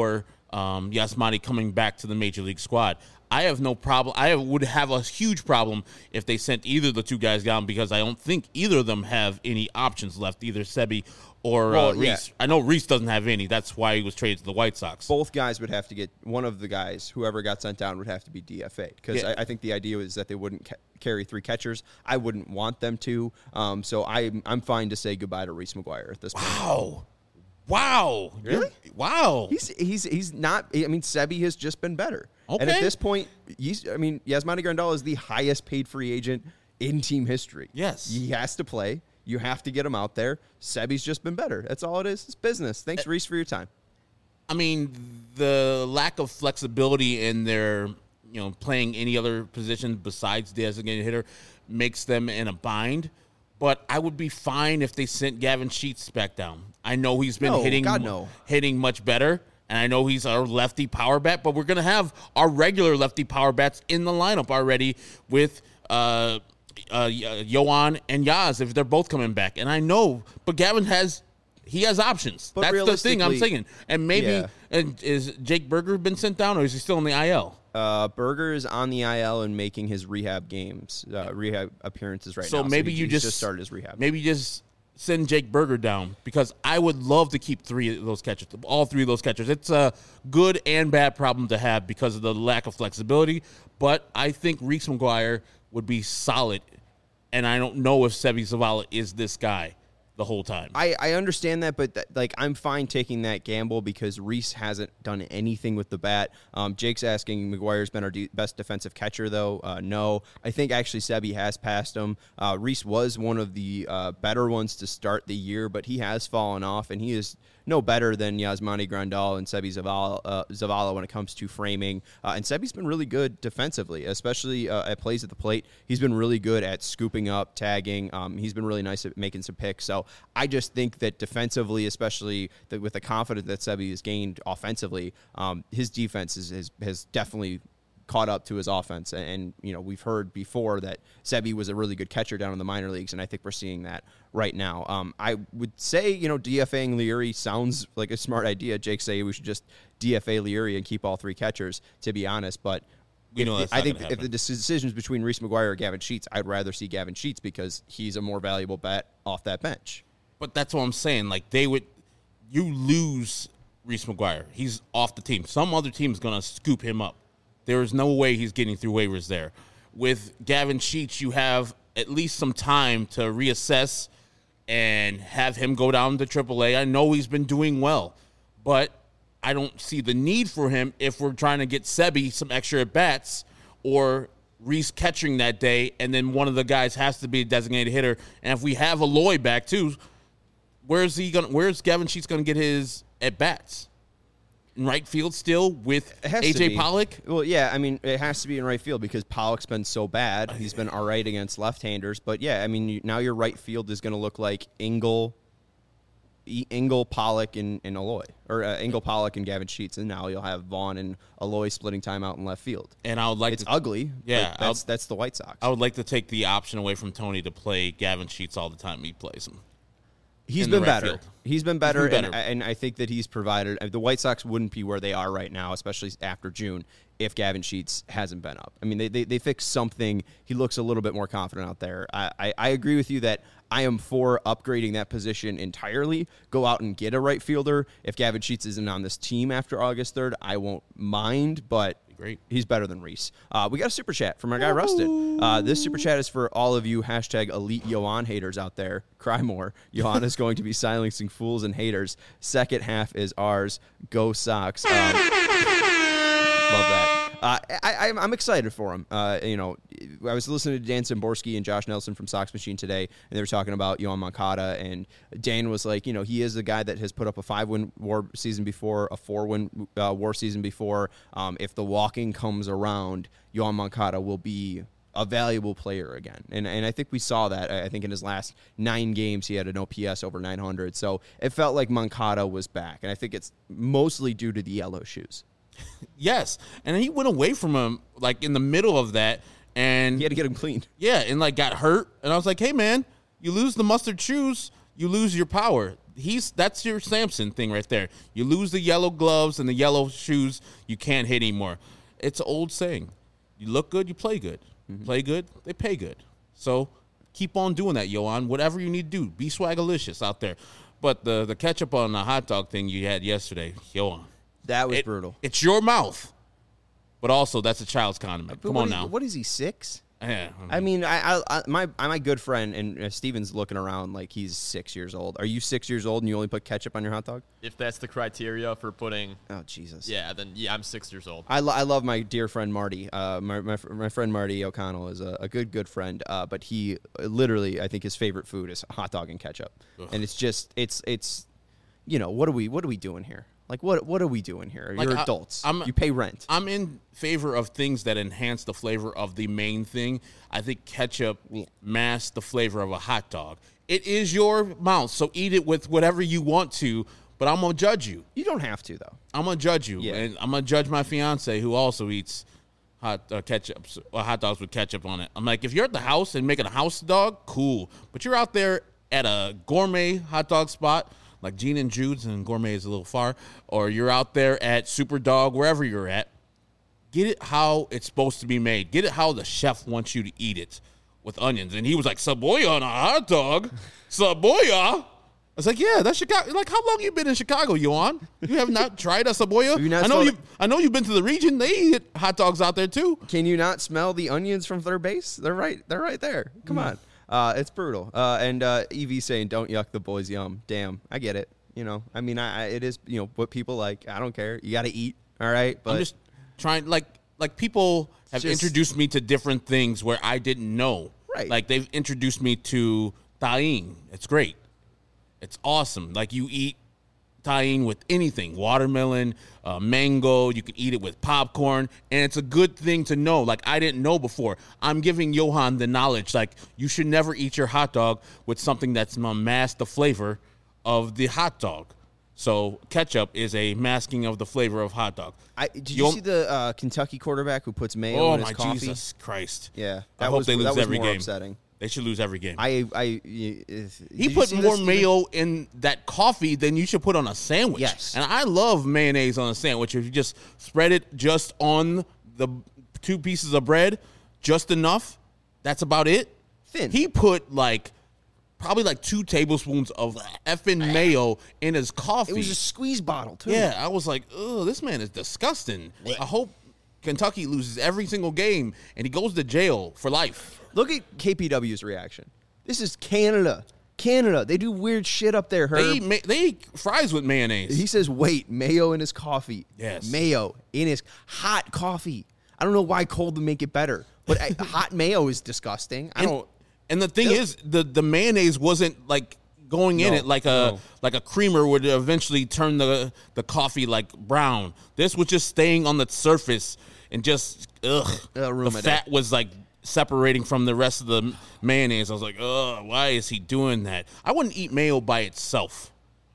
um, Yasmani coming back to the Major League squad. I have no problem. I would have a huge problem if they sent either of the two guys down because I don't think either of them have any options left, either Sebi or Well, uh, Reese. yeah. I know Reese doesn't have any. That's why he was traded to the White Sox. Both guys would have to get one of the guys, whoever got sent down, would have to be D F A'd because Yeah. I, I think the idea was that they wouldn't ca- carry three catchers. I wouldn't want them to. Um, so I, I'm fine to say goodbye to Reese McGuire at this point. Wow. Wow. Really? Wow. He's he's he's not. I mean, Sebi has just been better. And Okay. at this point, he's, I mean, Yasmani Grandal is the highest paid free agent in team history. Yes. He has to play. You have to get him out there. Sebi's just been better. That's all it is. It's business. Thanks, Reese, for your time. I mean, the lack of flexibility in their, you know, playing any other position besides designated hitter makes them in a bind. But I would be fine if they sent Gavin Sheets back down. I know he's been No, hitting God, no. hitting much better, and I know he's our lefty power bat, but we're going to have our regular lefty power bats in the lineup already with uh, uh, Yoan and Yaz if they're both coming back. And I know, but Gavin has he has options. But That's the thing I'm realistically- saying. And maybe Yeah. and is Jake Berger been sent down, or is he still in the I L? Uh, Berger is on the I L and making his rehab games, uh, rehab appearances right So now. maybe he- you he's just, just started his rehab. Maybe you just send Jake Berger down because I would love to keep three of those catchers, all three of those catchers. It's a good and bad problem to have because of the lack of flexibility. But I think Reese McGuire would be solid, and I don't know if Sebi Zavala is this guy the whole time. I, I understand that, but that, like I'm fine taking that gamble because Reese hasn't done anything with the bat. Um, Jake's asking McGuire's been our de- best defensive catcher, though. Uh, no, I think actually Sebi has passed him. Uh, Reese was one of the uh, better ones to start the year, but he has fallen off, and he is no better than Yasmani Grandal and Sebi Zavala, uh, Zavala when it comes to framing. Uh, and Sebi's been really good defensively, especially uh, at plays at the plate. He's been really good at scooping up, tagging. Um, he's been really nice at making some picks. So I just think that defensively, especially the, with the confidence that Sebi has gained offensively, um, his defense is, is, has definitely caught up to his offense. And, and, you know, we've heard before that Sebi was a really good catcher down in the minor leagues, and I think we're seeing that right now. Um, I would say, you know, DFAing Leary sounds like a smart idea. Jake say we should just D F A Leary and keep all three catchers, to be honest. But We know if- that's I not think gonna if happen. the decisions between Reese McGuire or Gavin Sheets, I'd rather see Gavin Sheets because he's a more valuable bet off that bench. But that's what I'm saying. Like, they would, you lose Reese McGuire. He's off the team. Some other team's going to scoop him up. There is no way he's getting through waivers there. With Gavin Sheets, you have at least some time to reassess and have him go down to triple A. I know he's been doing well, but I don't see the need for him if we're trying to get Sebi some extra at-bats or Reese catching that day, and then one of the guys has to be a designated hitter. And if we have Aloy back too, where's he going? Where's Gavin Sheets going to get his at-bats? In right field still with It has A to J be. Pollock? Well, yeah, I mean, it has to be in right field because Pollock's been so bad. He's been all right against left-handers. But, yeah, I mean, you, now your right field is going to look like Engel, E- Engel, Pollock, and, and Aloy. Or uh, Engel, Pollock, and Gavin Sheets. And now you'll have Vaughn and Aloy splitting time out in left field. And I would like It's to, ugly. Yeah, but that's, that's the White Sox. I would like to take the option away from Tony to play Gavin Sheets all the time he plays him. He's in the been right better. field. He's been better, been and, better. and I think that he's provided. The White Sox wouldn't be where they are right now, especially after June, if Gavin Sheets hasn't been up. I mean, they they, they fixed something. He looks a little bit more confident out there. I, I, I agree with you that I am for upgrading that position entirely. Go out and get a right fielder. If Gavin Sheets isn't on this team after August third, I won't mind, but Great. he's better than Reese. Uh, we got a super chat from our guy Rusted. Uh, this super chat is for all of you hashtag elite Yohan haters out there. Cry more. Yohan is going to be silencing fools and haters. Second half is ours. Go Sox. Um, love that. Uh, I, I, I'm excited for him. Uh, you know, I was listening to Dan Szymborski and Josh Nelson from Sox Machine today, and they were talking about Yohan Moncada, and Dan was like, you know, he is a guy that has put up a five-win WAR season before, a four-win uh, WAR season before. Um, if the walking comes around, Yohan Moncada will be a valuable player again. And and I think we saw that. I think in his last nine games, he had an O P S over nine hundred. So it felt like Moncada was back. And I think it's mostly due to the yellow shoes. Yes, and he went away from him like in the middle of that, and He had to get him cleaned. yeah, and like got hurt. And I was like, hey man, you lose the mustard shoes, you lose your power. he's that's your Samson thing right there. You lose the yellow gloves and the yellow shoes, you can't hit anymore. It's an old saying. You look good, you play good. Mm-hmm. Play good, they pay good. So keep on doing that, Johan. Whatever you need to do, be swagalicious out there. But the the ketchup on the hot dog thing you had yesterday, Johan. That was it, brutal. It's your mouth. But also, that's a child's condiment. But Come what on is, now. What is he, six? Yeah, I mean, I, I, I my my good friend and uh, Steven's looking around like he's six years old. Are you six years old and you only put ketchup on your hot dog? If that's the criteria for putting, oh Jesus, yeah, then yeah, I'm six years old. I, lo- I love my dear friend Marty. Uh, my my, my friend Marty O'Connell is a, a good good friend. Uh, but he uh, literally, I think his favorite food is hot dog and ketchup, Ugh. and it's just it's it's, you know, what are we what are we doing here? Like, what what are we doing here? Like, You're I, adults. I'm, you pay rent. I'm in favor of things that enhance the flavor of the main thing. I think ketchup masks the flavor of a hot dog. It is your mouth, so eat it with whatever you want to, but I'm going to judge you. You don't have to, though. I'm going to judge you, Yeah. and I'm going to judge my fiance, who also eats hot uh, ketchup, or hot dogs with ketchup on it. I'm like, if you're at the house and making a house dog, cool. But you're out there at a gourmet hot dog spot, like Gene and Jude's, and gourmet is a little far, or you're out there at Super Dog, wherever you're at, get it how it's supposed to be made. Get it how the chef wants you to eat it with onions. And he was like, Saboya on a hot dog? Saboya? I was like, yeah, that's Chicago. Like, how long you been in Chicago, Yohan? You have not tried a Saboya? you not I know you. smelled- I know you've been to the region. They eat hot dogs out there too. Can you not smell the onions from third base? They're right. They're right there. Come on. Uh, it's brutal. Uh, and uh, Evie saying, "Don't yuck the boys' yum." Damn, I get it. You know, I mean, I, I it is you know what people like. I don't care. You got to eat. All right, but I'm just trying. Like, like people have Just- introduced me to different things where I didn't know. Right. Like they've introduced me to tahine. It's great. It's awesome. Like you eat tahine with anything, watermelon, uh, mango. You can eat it with popcorn, and it's a good thing to know. Like I didn't know before. I'm giving Johan the knowledge. Like you should never eat your hot dog with something that's gonna mask the flavor of the hot dog. So ketchup is a masking of the flavor of hot dog. I, did you You'll- see the uh, Kentucky quarterback who puts mayo Oh in his my coffee? Jesus Christ! Yeah, I that hope was, they lose that was every more game. upsetting. They should lose every game. I, I, if, he put more mayo in that coffee than you should put on a sandwich. Yes. And I love mayonnaise on a sandwich. If you just spread it just on the two pieces of bread, just enough, that's about it. Thin. He put like probably like two tablespoons of effing mayo in his coffee. It was a squeeze bottle too. Yeah, I was like, oh, this man is disgusting. I hope Kentucky loses every single game and he goes to jail for life. Look at K P W's reaction. This is Canada. Canada. They do weird shit up there, Herb. They eat, ma- they eat fries with mayonnaise. He says, wait, mayo in his coffee. Yes. Mayo in his hot coffee. I don't know why cold would make it better, but I, hot mayo is disgusting. I and, don't. and the thing Ugh. is, the, the mayonnaise wasn't like going in No, it like a no. like a creamer would eventually turn the the coffee like brown. This was just staying on the surface and just ugh. It'll ruin The my fat day. was like separating from the rest of the mayonnaise. I was like, ugh, why is he doing that? I wouldn't eat mayo by itself.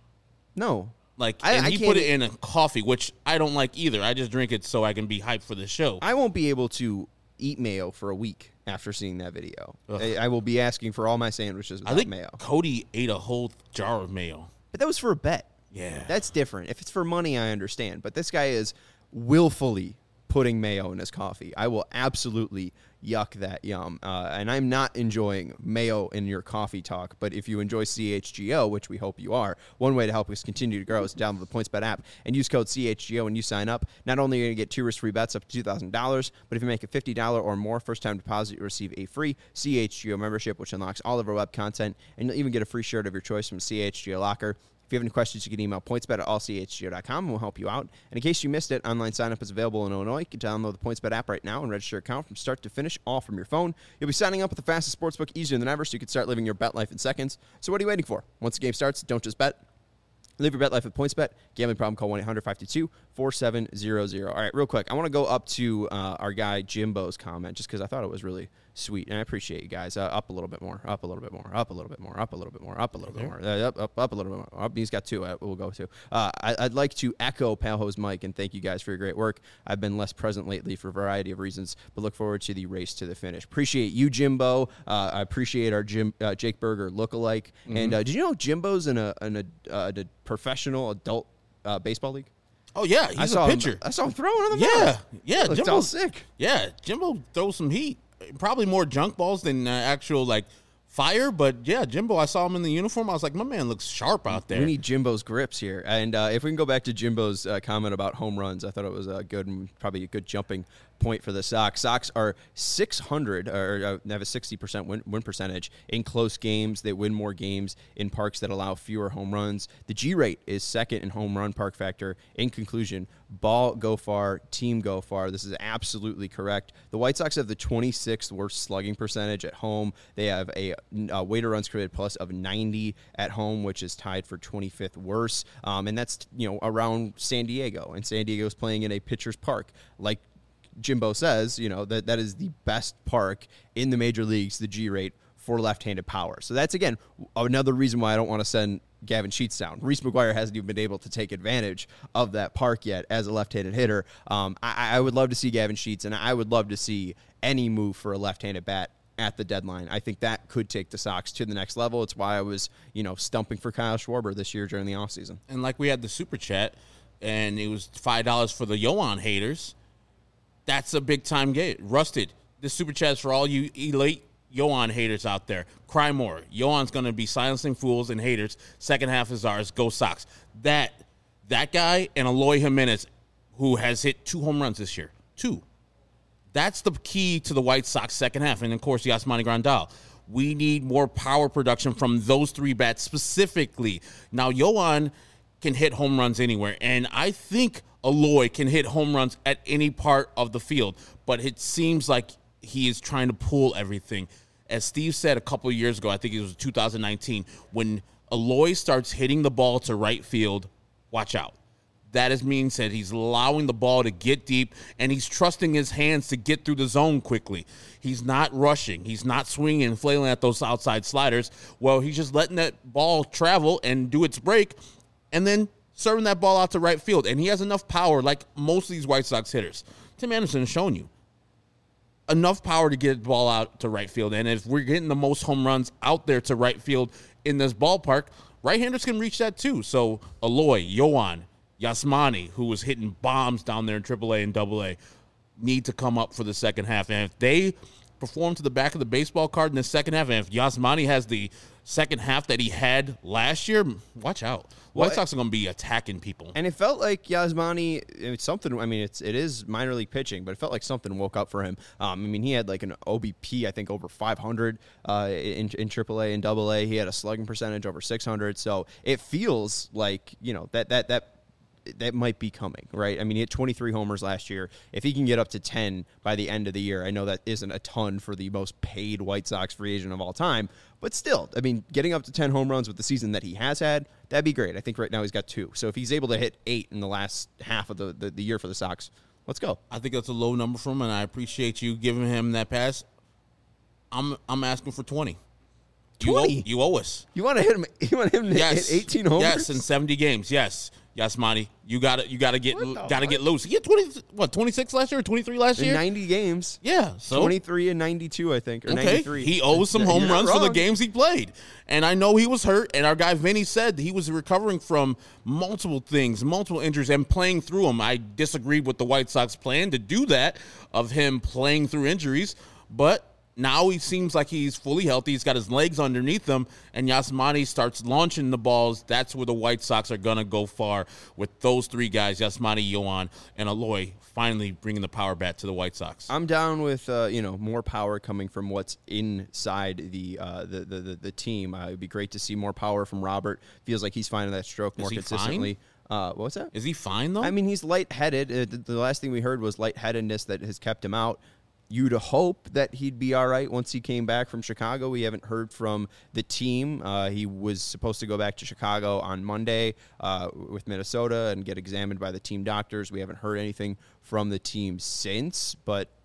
No. Like, I- and I he can't put it eat- in a coffee, which I don't like either. I just drink it so I can be hyped for the show. I won't be able to eat mayo for a week after seeing that video. Ugh. I, I will be asking for all my sandwiches I without think mayo. Cody ate a whole jar of mayo. But that was for a bet. Yeah. That's different. If it's for money, I understand. But this guy is willfully putting mayo in his coffee. I will absolutely yuck that yum. Uh, and I'm not enjoying mayo in your coffee talk. But if you enjoy C H G O, which we hope you are, one way to help us continue to grow is to download the PointsBet app and use code C H G O when you sign up. Not only are you going to get two risk-free bets up to two thousand dollars, but if you make a fifty dollars or more first-time deposit, you receive a free C H G O membership, which unlocks all of our web content. And you'll even get a free shirt of your choice from C H G O Locker. If you have any questions, you can email pointsbet at all c h g o dot com and we'll help you out. And in case you missed it, online sign-up is available in Illinois. You can download the PointsBet app right now and register your account from start to finish, all from your phone. You'll be signing up with the fastest sportsbook easier than ever, so you can start living your bet life in seconds. So what are you waiting for? Once the game starts, don't just bet. Live your bet life with PointsBet. Gambling problem, call one eight hundred five two two four seven zero zero. All right, real quick, I want to go up to uh, our guy Jimbo's comment just because I thought it was really Sweet. And I appreciate you guys. Uh, up a little bit more, up a little bit more, up a little bit more, up a little bit more, up a little bit more, uh, up, up, up a little bit more. Up, he's got two. Uh, we'll go to. Uh, I, I'd like to echo Palho's Mike and thank you guys for your great work. I've been less present lately for a variety of reasons, but look forward to the race to the finish. Appreciate you, Jimbo. Uh, I appreciate our Jim uh, Jake Berger lookalike. Mm-hmm. And uh, did you know Jimbo's in a, in a, uh, a professional adult uh, baseball league? Oh, yeah, he's I saw a pitcher. Him, I saw him throwing on the Yeah, mound. yeah. Jimbo's all sick. Yeah, Jimbo throws some heat. Probably more junk balls than uh, actual, like, fire. But, yeah, Jimbo, I saw him in the uniform. I was like, my man looks sharp out there. We need Jimbo's grips here. And uh, if we can go back to Jimbo's uh, comment about home runs, I thought it was a good and probably a good jumping point for the Sox. Sox are six hundred, or uh, have a sixty percent win, win percentage in close games. They win more games in parks that allow fewer home runs. The G rate is second in home run park factor. In conclusion, ball go far, team go far. This is absolutely correct. The White Sox have the twenty-sixth worst slugging percentage at home. They have a, a weighted runs created plus of ninety at home, which is tied for twenty-fifth worst. Um, and that's, you know, around San Diego. And San Diego's playing in a pitcher's park. Like Jimbo says, you know, that that is the best park in the major leagues, the G rate for left-handed power. So that's, again, another reason why I don't want to send Gavin Sheets down. Reese McGuire hasn't even been able to take advantage of that park yet as a left-handed hitter. Um, I, I would love to see Gavin Sheets, and I would love to see any move for a left-handed bat at the deadline. I think that could take the Sox to the next level. It's why I was, you know, stumping for Kyle Schwarber this year during the offseason. And like we had the Super Chat, and it was five dollars for the Yoan haters. That's a big-time game. Rusted, this Super Chat is for all you elite Yoan haters out there. Cry more. Yoan's going to be silencing fools and haters. Second half is ours. Go Sox. That that guy and Eloy Jimenez, who has hit two home runs this year. Two. That's the key to the White Sox second half. And, of course, Yasmani Grandal. We need more power production from those three bats specifically. Now, Yoan can hit home runs anywhere. And I think Eloy can hit home runs at any part of the field. But it seems like he is trying to pull everything. As Steve said a couple of years ago, I think it was two thousand nineteen, when Eloy starts hitting the ball to right field, watch out. That is means that he's allowing the ball to get deep, and he's trusting his hands to get through the zone quickly. He's not rushing. He's not swinging and flailing at those outside sliders. Well, he's just letting that ball travel and do its break, and then serving that ball out to right field. And he has enough power, like most of these White Sox hitters. Tim Anderson has shown you. Enough power to get the ball out to right field. And if we're getting the most home runs out there to right field in this ballpark, right-handers can reach that too. So Eloy, Yoan, Yasmani, who was hitting bombs down there in triple A and double A, need to come up for the second half. And if they perform to the back of the baseball card in the second half, and if Yasmani has the second half that he had last year, watch out. White well, Sox are going to be attacking people. And it felt like Yasmani, it's something, I mean, it's, it is minor league pitching, but it felt like something woke up for him. Um, I mean, he had like an O B P, I think, over five hundred uh, in, in triple A and double A. He had a slugging percentage over six hundred. So it feels like, you know, that, that, that, that might be coming, right? I mean, he had twenty-three homers last year. If he can get up to ten by the end of the year, I know that isn't a ton for the most paid White Sox free agent of all time, but still, I mean, getting up to ten home runs with the season that he has had, that'd be great. I think right now he's got two. So if he's able to hit eight in the last half of the, the, the year for the Sox, let's go. I think that's a low number for him, and I appreciate you giving him that pass. I'm I'm asking for twenty. You owe, you owe us. You want to hit him? You want him to yes. hit eighteen homers? Yes, in seventy games. Yes. Yasmani, you got to you got to get got to get loose. He had twenty what twenty-six last year or twenty-three last in year? ninety games. Yeah, so twenty-three and ninety-two, I think, or okay. ninety-three. He owes some home runs for the games he played. And I know he was hurt, and our guy Vinny said he was recovering from multiple things, multiple injuries, and playing through them. I disagreed with the White Sox plan to do that, of him playing through injuries, but now he seems like he's fully healthy. He's got his legs underneath him, and Yasmani starts launching the balls. That's where the White Sox are going to go far with those three guys, Yasmani, Yoan, and Eloy, finally bringing the power bat to the White Sox. I'm down with uh, you know more power coming from what's inside the uh, the, the, the the team. Uh, it'd be great to see more power from Robert. Feels like he's finding that stroke more consistently. Uh, what's that? Is he fine, though? I mean, he's lightheaded. Uh, the, the last thing we heard was lightheadedness that has kept him out. You'd hope that he'd be all right once he came back from Chicago. We haven't heard from the team. Uh, he was supposed to go back to Chicago on Monday uh, with Minnesota and get examined by the team doctors. We haven't heard anything from the team since, but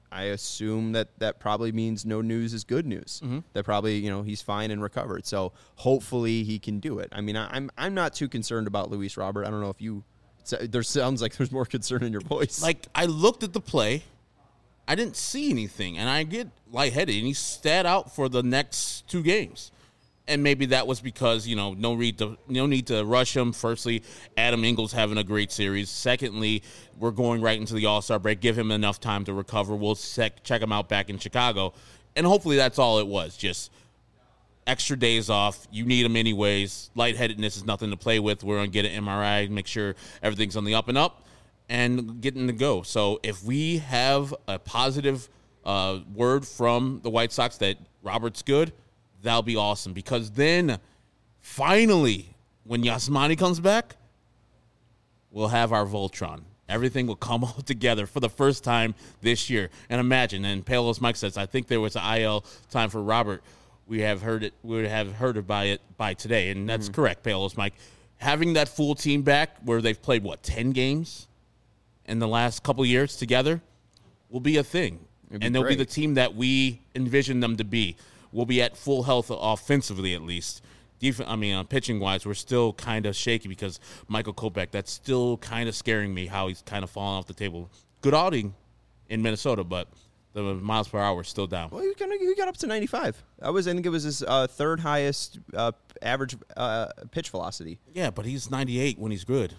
I assume that that probably means no news is good news. Mm-hmm. That probably, you know, he's fine and recovered. So hopefully he can do it. I mean, I, I'm I'm not too concerned about Luis Robert. I don't know if you. There sounds like there's more concern in your voice. Like, I looked at the play, I didn't see anything, and I get lightheaded, and he sat out for the next two games. And maybe that was because, you know, no need to no need to rush him. Firstly, Adam Engel's having a great series. Secondly, we're going right into the All-Star break. Give him enough time to recover. We'll sec- check him out back in Chicago. And hopefully that's all it was, just extra days off. You need them anyways. Lightheadedness is nothing to play with. We're going to get an M R I, make sure everything's on the up and up, and getting to go. So if we have a positive uh, word from the White Sox that Robert's good, that'll be awesome, because then finally, when Yasmani comes back, we'll have our Voltron. Everything will come all together for the first time this year. And imagine, and Palos Mike says, I think there was an I L time for Robert. We have heard it. We would have heard it by it by today, and that's mm-hmm. correct, Palos Mike. Having that full team back, where they've played what ten games in the last couple of years together, will be a thing, be and they'll great. be the team that we envision them to be. We'll be at full health offensively, at least. Def- I mean, uh, pitching-wise, we're still kind of shaky because Michael Kopech, that's still kind of scaring me how he's kind of falling off the table. Good outing in Minnesota, but the miles per hour is still down. Well, he got, he got up to ninety-five. I was, I think it was his uh, third highest uh, average uh, pitch velocity. Yeah, but he's ninety-eight when he's good.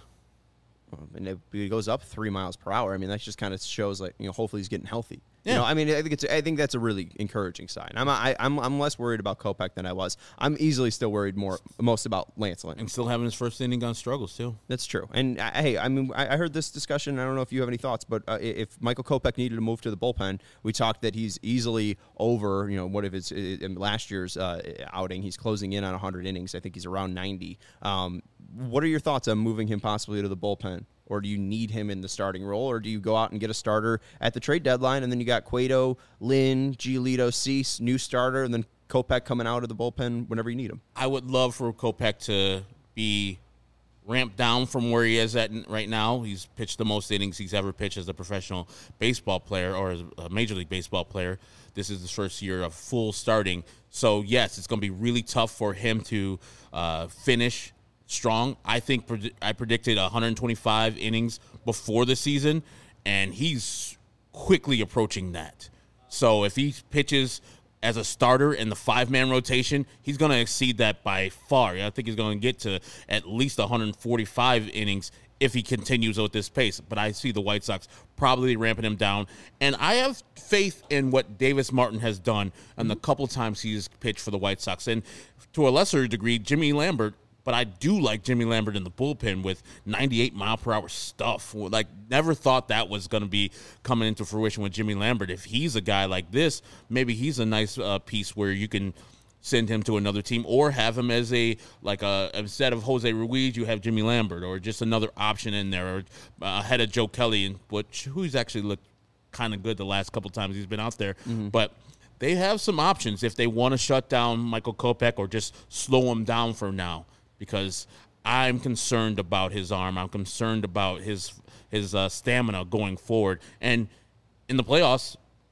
And if he goes up three miles per hour, I mean, that just kind of shows, like, you know, hopefully he's getting healthy. Yeah. You know, I mean, I think it's, I think that's a really encouraging sign. I'm, I, I'm, I'm less worried about Kopech than I was. I'm easily still worried more, most about Lance Lynn. And still having his first inning on struggles, too. That's true. And, uh, hey, I mean, I, I heard this discussion. I don't know if you have any thoughts, but uh, if Michael Kopech needed to move to the bullpen, we talked that he's easily over, you know, what if it's in last year's uh, outing. He's closing in on one hundred innings. I think he's around ninety. Um, what are your thoughts on moving him possibly to the bullpen? Or do you need him in the starting role? Or do you go out and get a starter at the trade deadline, and then you got Cueto, Lynn, Giolito, Cease, new starter, and then Kopech coming out of the bullpen whenever you need him? I would love for Kopech to be ramped down from where he is at right now. He's pitched the most innings he's ever pitched as a professional baseball player or as a Major League Baseball player. This is his first year of full starting. So, yes, it's going to be really tough for him to uh, finish strong. I think pred- I predicted one hundred twenty-five innings before the season, and he's quickly approaching that. So if he pitches as a starter in the five-man rotation, he's going to exceed that by far. I think he's going to get to at least one hundred forty-five innings if he continues at this pace. But I see the White Sox probably ramping him down. And I have faith in what Davis Martin has done and the couple times he's pitched for the White Sox. And to a lesser degree, Jimmy Lambert. But I do like Jimmy Lambert in the bullpen with ninety-eight mile per hour stuff. Like, never thought that was going to be coming into fruition with Jimmy Lambert. If he's a guy like this, maybe he's a nice uh, piece where you can send him to another team or have him as a, like a, instead of Jose Ruiz, you have Jimmy Lambert or just another option in there, or uh, ahead of Joe Kelly, and which who's actually looked kind of good the last couple times he's been out there. Mm-hmm. But they have some options if they want to shut down Michael Kopech or just slow him down for now. Because I'm concerned about his arm. I'm concerned about his his uh, stamina going forward. And in the playoffs,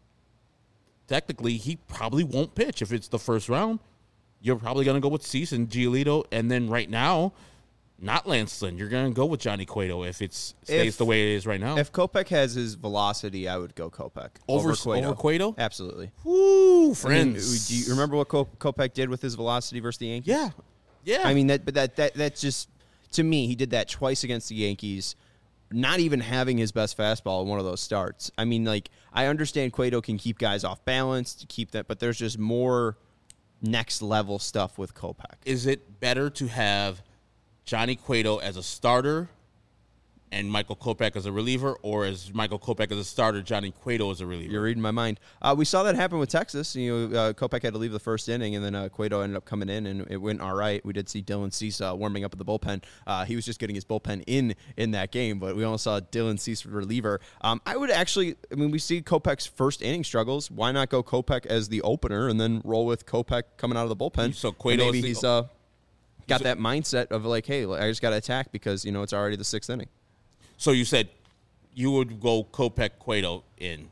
technically, he probably won't pitch if it's the first round. You're probably going to go with Cease and Giolito. And then right now, not Lance Lynn. You're going to go with Johnny Cueto if it stays if, the way it is right now. If Kopech has his velocity, I would go Kopech. Over, over Cueto. Over Cueto? Absolutely. Woo, friends. I mean, do you remember what Kopech did with his velocity versus the Yankees? Yeah. Yeah, I mean that, but that that that's just, to me, he did that twice against the Yankees, not even having his best fastball in one of those starts. I mean, like, I understand Cueto can keep guys off balance to keep that, but there's just more next level stuff with Kopech. Is it better to have Johnny Cueto as a starter and Michael Kopech as a reliever, or as Michael Kopech as a starter, Johnny Cueto as a reliever? You're reading my mind. Uh, we saw that happen with Texas. You know, uh, Kopech had to leave the first inning, and then uh, Cueto ended up coming in, and it went all right. We did see Dylan Cease uh, warming up at the bullpen. Uh, he was just getting his bullpen in in that game, but we also saw Dylan Cease reliever. Um, I would actually, I mean, we see Kopech's first inning struggles. Why not go Kopech as the opener and then roll with Kopech coming out of the bullpen? So Cueto, maybe the, he's uh, got that mindset of like, hey, I just got to attack because you know it's already the sixth inning. So you said you would go Kopech Cueto in.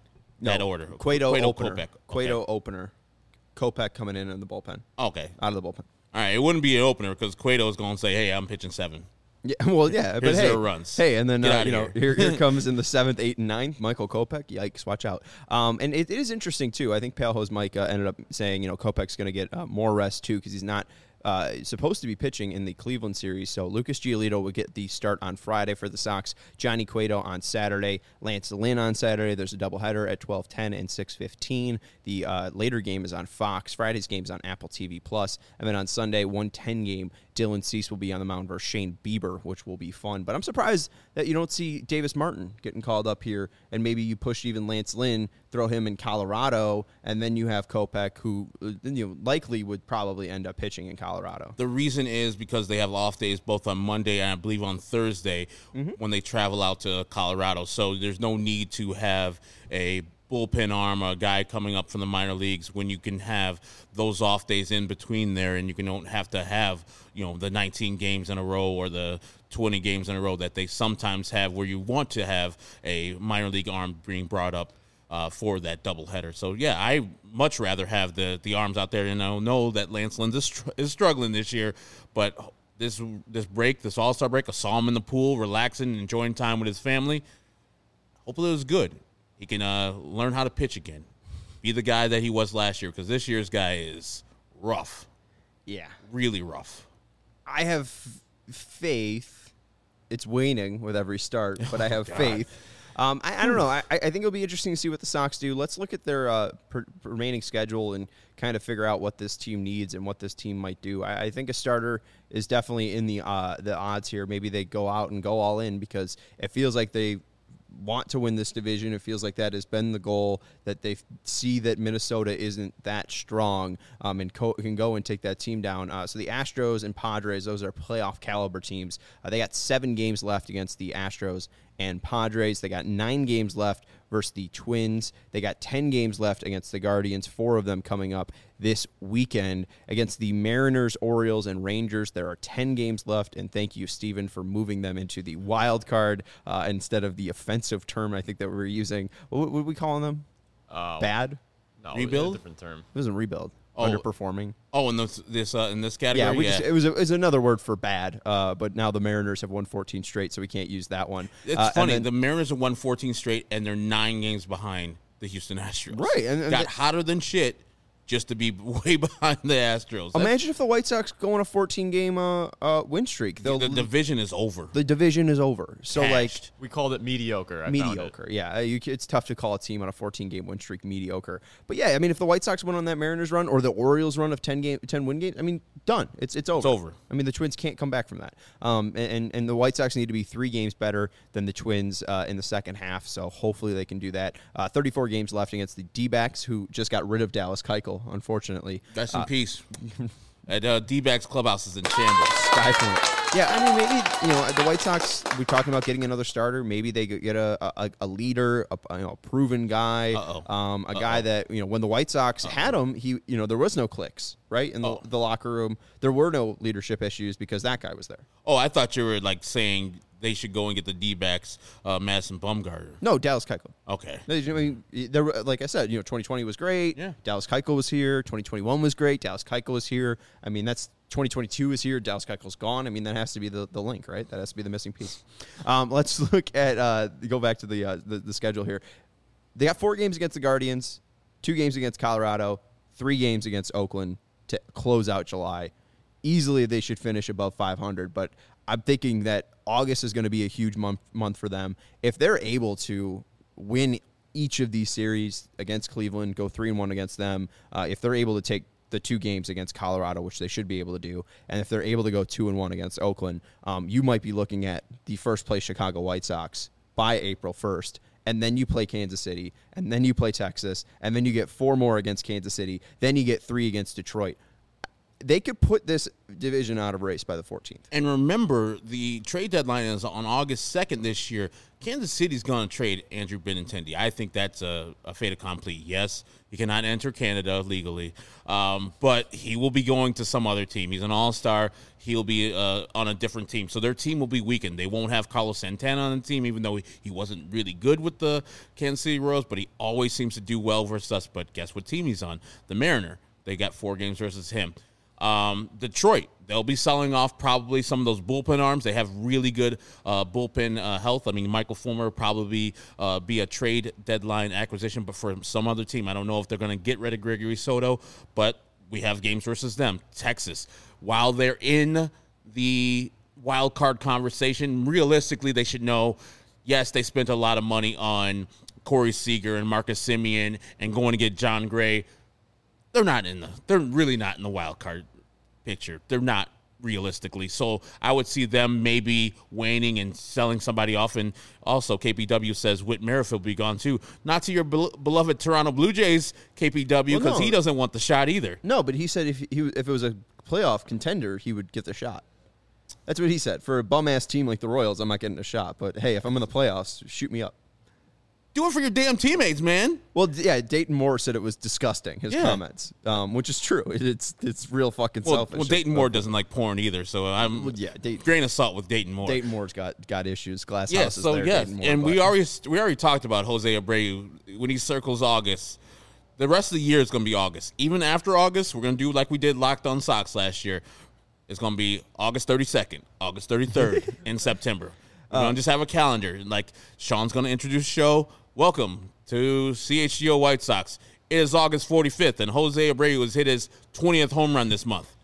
that No, order? Cueto, Cueto, opener. Kopech. Cueto Okay. opener. Kopech coming in in the bullpen. Okay. Out of the bullpen. All right. It wouldn't be an opener because Cueto is going to say, hey, I'm pitching seven. Yeah, well, yeah, but Here's hey, zero runs. hey, and then Get uh, outta you know, here. here, here comes in the seventh, eighth, and ninth, Michael Kopech. Yikes, watch out. Um, and it, it is interesting too. I think Paleho's Mike uh, ended up saying, you know, Kopech's going to get uh, more rest too because he's not uh, supposed to be pitching in the Cleveland series. So Lucas Giolito would get the start on Friday for the Sox. Johnny Cueto on Saturday. Lance Lynn on Saturday. There's a doubleheader at twelve ten and six fifteen. The uh, later game is on Fox. Friday's game is on Apple T V Plus, and then on Sunday, one ten game. Dylan Cease will be on the mound versus Shane Bieber, which will be fun. But I'm surprised that you don't see Davis Martin getting called up here, and maybe you push even Lance Lynn, throw him in Colorado, and then you have Kopech, who uh, you know, likely would probably end up pitching in Colorado. The reason is because they have off days both on Monday and I believe on Thursday mm-hmm. when they travel out to Colorado. So there's no need to have a bullpen arm, a guy coming up from the minor leagues when you can have those off days in between there, and you can don't have to have, you know, the nineteen games in a row or the twenty games in a row that they sometimes have where you want to have a minor league arm being brought up uh, for that doubleheader. So yeah, I much rather have the the arms out there, and I know that Lance Lynn is, str- is struggling this year, but this this break, this All-Star break, I saw him in the pool, relaxing, enjoying time with his family. Hopefully it was good. He can uh, learn how to pitch again. Be the guy that he was last year, because this year's guy is rough. Yeah. Really rough. I have faith. It's waning with every start, but I have God. faith. Um, I, I don't know. I, I think it'll be interesting to see what the Sox do. Let's look at their uh, per, remaining schedule and kind of figure out what this team needs and what this team might do. I, I think a starter is definitely in the uh, the odds here. Maybe they go out and go all in because it feels like they want to win this division. It feels like that has been the goal, that they see that Minnesota isn't that strong um, and co- can go and take that team down. Uh, so the Astros and Padres, those are playoff caliber teams. Uh, they got seven games left against the Astros and Padres. They got nine games left versus the Twins. They got ten games left against the Guardians, four of them coming up this weekend. Against the Mariners, Orioles, and Rangers, there are ten games left, and thank you, Steven, for moving them into the wild card uh, instead of the offensive term I think that we were using. What were we calling them? Uh, Bad? No, Rebuild? A different term. It wasn't rebuild. Oh. Underperforming. Oh, in this this uh, in this Yeah, category, we yeah. just, it was a, it was another word for bad, uh, but now the Mariners have won fourteen straight, so we can't use that one. It's Uh, and funny. then- the Mariners have won fourteen straight, and they're nine games behind the Houston Astros. Right, and- and got the- hotter than shit just to be way behind the Astros. That's- Imagine if the White Sox go on a fourteen-game uh, uh, win streak. They'll, the division is over. the division is over. So, like, Cashed. We called it mediocre. I found it. mediocre. Yeah, uh, you, c- it's tough to call a team on a fourteen-game win streak mediocre. But yeah, I mean, if the White Sox went on that Mariners run or the Orioles run of ten game, ten win games, I mean, done. It's it's over. over. I mean, the Twins can't come back from that. Um, and and, and the White Sox need to be three games better than the Twins uh, in the second half. So hopefully they can do that. Uh, thirty-four games left against the D-backs, who just got rid of Dallas Keuchel, unfortunately. Rest in Uh, peace. At uh, D-backs clubhouse is in shambles. Sky Point. Yeah, I mean, maybe, you know, the White Sox, we're talking about getting another starter. Maybe they could get a, a, a leader, a, you know, a proven guy, Uh-oh. um, a Uh-oh. guy that, you know, when the White Sox Uh-oh. had him, he, you know, there was no clicks, right? In the, Oh. the locker room, there were no leadership issues because that guy was there. Oh, I thought you were like saying they should go and get the D-backs, uh, Madison Bumgarner. No, Dallas Keuchel. Okay. I mean, there, were- like I said, you know, twenty twenty was great. Yeah. Dallas Keuchel was here. twenty twenty-one was great. Dallas Keuchel was here. I mean, that's twenty twenty-two is here. Dallas Keuchel's gone. I mean, that has to be the, the link, right? That has to be the missing piece. Um, let's look at uh, go back to the, uh, the the schedule here. They got four games against the Guardians, two games against Colorado, three games against Oakland to close out July. Easily, they should finish above five hundred, but I'm thinking that August is going to be a huge month month for them. If they're able to win each of these series against Cleveland, go three and one against them, uh, if they're able to take the two games against Colorado, which they should be able to do, and if they're able to go two and one against Oakland, um, you might be looking at the first place Chicago White Sox by April first. And then you play Kansas City, and then you play Texas, and then you get four more against Kansas City, then you get three against Detroit. they could put this division out of race by the fourteenth. And remember, the trade deadline is on August second this year. Kansas City's going to trade Andrew Benintendi. I think that's a, a fait accompli. Yes, he cannot enter Canada legally, um, but he will be going to some other team. He's an all-star. He'll be uh, on a different team. So their team will be weakened. They won't have Carlos Santana on the team, even though he, he wasn't really good with the Kansas City Royals, but he always seems to do well versus us. But guess what team he's on? The Mariner. They got four games versus him. Um, Detroit, they'll be selling off probably some of those bullpen arms. They have really good uh, bullpen uh, health. I mean, Michael Fulmer probably uh, be a trade deadline acquisition, but for some other team, I don't know if they're going to get rid of Gregory Soto, but we have games versus them. Texas, while they're in the wild card conversation, realistically, they should know, yes, they spent a lot of money on Corey Seager and Marcus Semien and going to get John Gray. They're not in the. They're really not in the wild card picture. They're not realistically. So I would see them maybe waning and selling somebody off. And also, K P W says Whit Merrifield will be gone too. Not to your be- beloved Toronto Blue Jays, K P W, because well, no. he doesn't want the shot either. No, but he said if he if it was a playoff contender, he would get the shot. That's what he said. For a bum ass team like the Royals, I'm not getting a shot. But hey, if I'm in the playoffs, shoot me up. Do it for your damn teammates, man. Well, yeah, Dayton Moore said it was disgusting, his yeah. comments, um, which is true. It's it's real fucking well, selfish. Well, Dayton Moore doesn't like porn either, so I'm well, yeah, Dayton, grain of salt with Dayton Moore. Dayton Moore's got, got issues. Glass yeah, house is so there. yes, Moore, and but. we already we already talked about Jose Abreu when he circles August. The rest of the year is going to be August. Even after August, we're going to do like we did Locked On Sox last year. It's going to be August thirty-second, August thirty-third, in September. We're um, going to just have a calendar. Like Sean's going to introduce the show. Welcome to C H G O White Sox. It is August forty-fifth, and Jose Abreu has hit his twentieth home run this month.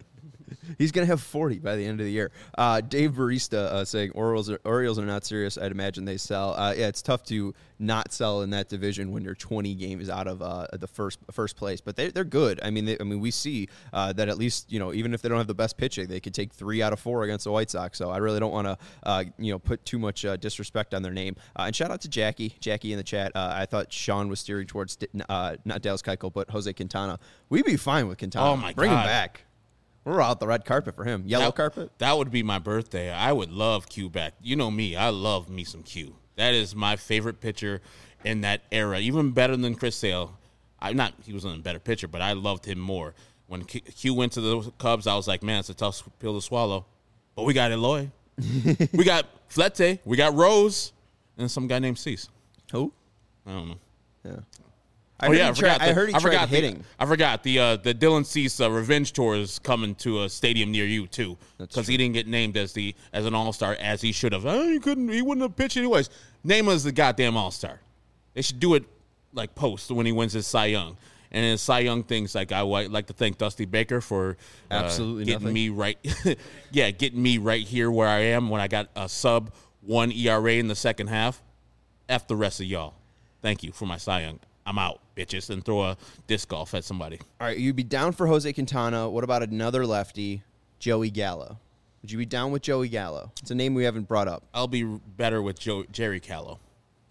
He's going to have forty by the end of the year. Uh, Dave Barista uh, saying Orioles are, Orioles are not serious. I'd imagine they sell. Uh, yeah, it's tough to not sell in that division when you're twenty games out of uh, the first first place. But they, they're good. I mean, they, I mean, we see uh, that at least, you know, even if they don't have the best pitching, they could take three out of four against the White Sox. So I really don't want to, uh, you know, put too much uh, disrespect on their name. Uh, and shout out to Jackie, Jackie in the chat. Uh, I thought Sean was steering towards uh, not Dallas Keuchel, but Jose Quintana. We'd be fine with Quintana. Oh my Bring God. him back. We're out the red carpet for him. Yellow that, carpet? That would be my birthday. I would love Q back. You know me. I love me some Q. That is my favorite pitcher in that era. Even better than Chris Sale. I'm not, he was a better pitcher, but I loved him more. When Q went to the Cubs, I was like, man, it's a tough pill to swallow. But we got Eloy. We got Flete. We got Rose. And some guy named Cease. Who? I don't know. Yeah. I oh, yeah, I forgot. The, I heard he I tried forgot hitting. The, I forgot the uh, the Dylan Cease uh, Revenge Tour is coming to a stadium near you too, because he didn't get named as the as an All Star as he should have. Oh, he couldn't. He wouldn't have pitched anyways. Name him as the goddamn All Star. They should do it like post when he wins his Cy Young. And his Cy Young things, like I would like to thank Dusty Baker for uh, absolutely getting nothing. me right. yeah, getting me right here where I am when I got a sub one E R A in the second half. F the rest of y'all. Thank you for my Cy Young. I'm out, bitches, and throw a disc golf at somebody. All right, you'd be down for Jose Quintana. What about another lefty, Joey Gallo? Would you be down with Joey Gallo? It's a name we haven't brought up. I'll be better with Joe, Jerry Callow.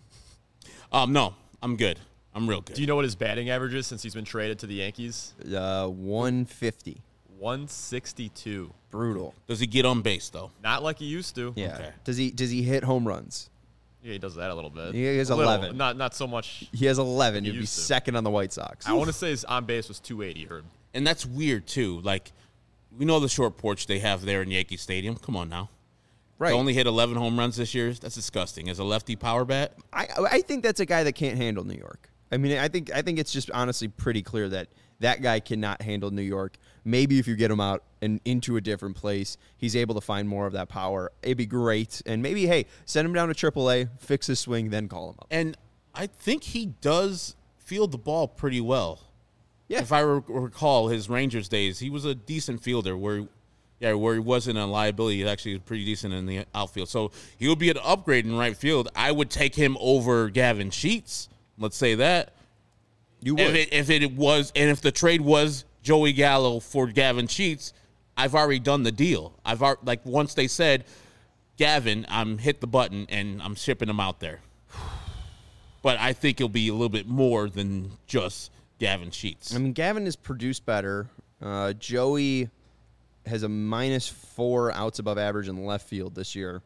Um, no, I'm good. I'm real good. Do you know what his batting average is since he's been traded to the Yankees? Uh, one fifty. one sixty-two. Brutal. Does he get on base, though? Not like he used to. Yeah. Okay. Does he Does he hit home runs? Yeah, he does that a little bit. He has A little. eleven. Not not so much. He has eleven. He He'd be used to. second on the White Sox. I want to say his on base was two eighty, Herb. And that's weird, too. Like, we know the short porch they have there in Yankee Stadium. Come on now. Right. They only hit eleven home runs this year. That's disgusting. As a lefty power bat? I I think that's a guy that can't handle New York. I mean, I think I think it's just honestly pretty clear that that guy cannot handle New York. Maybe if you get him out and into a different place, he's able to find more of that power. It'd be great. And maybe, hey, send him down to triple A, fix his swing, then call him up. And I think he does field the ball pretty well. Yeah. If I re- recall his Rangers days, he was a decent fielder where, yeah, where he wasn't a liability. He actually was pretty decent in the outfield. So he would be an upgrade in right field. I would take him over Gavin Sheets. Let's say that. You would. If it, if it was, and if the trade was Joey Gallo for Gavin Sheets, I've already done the deal. I've already, like once they said, Gavin, I'm hit the button and I'm shipping him out there. But I think it'll be a little bit more than just Gavin Sheets. I mean, Gavin has produced better Uh, Joey has a minus four outs above average in left field this year.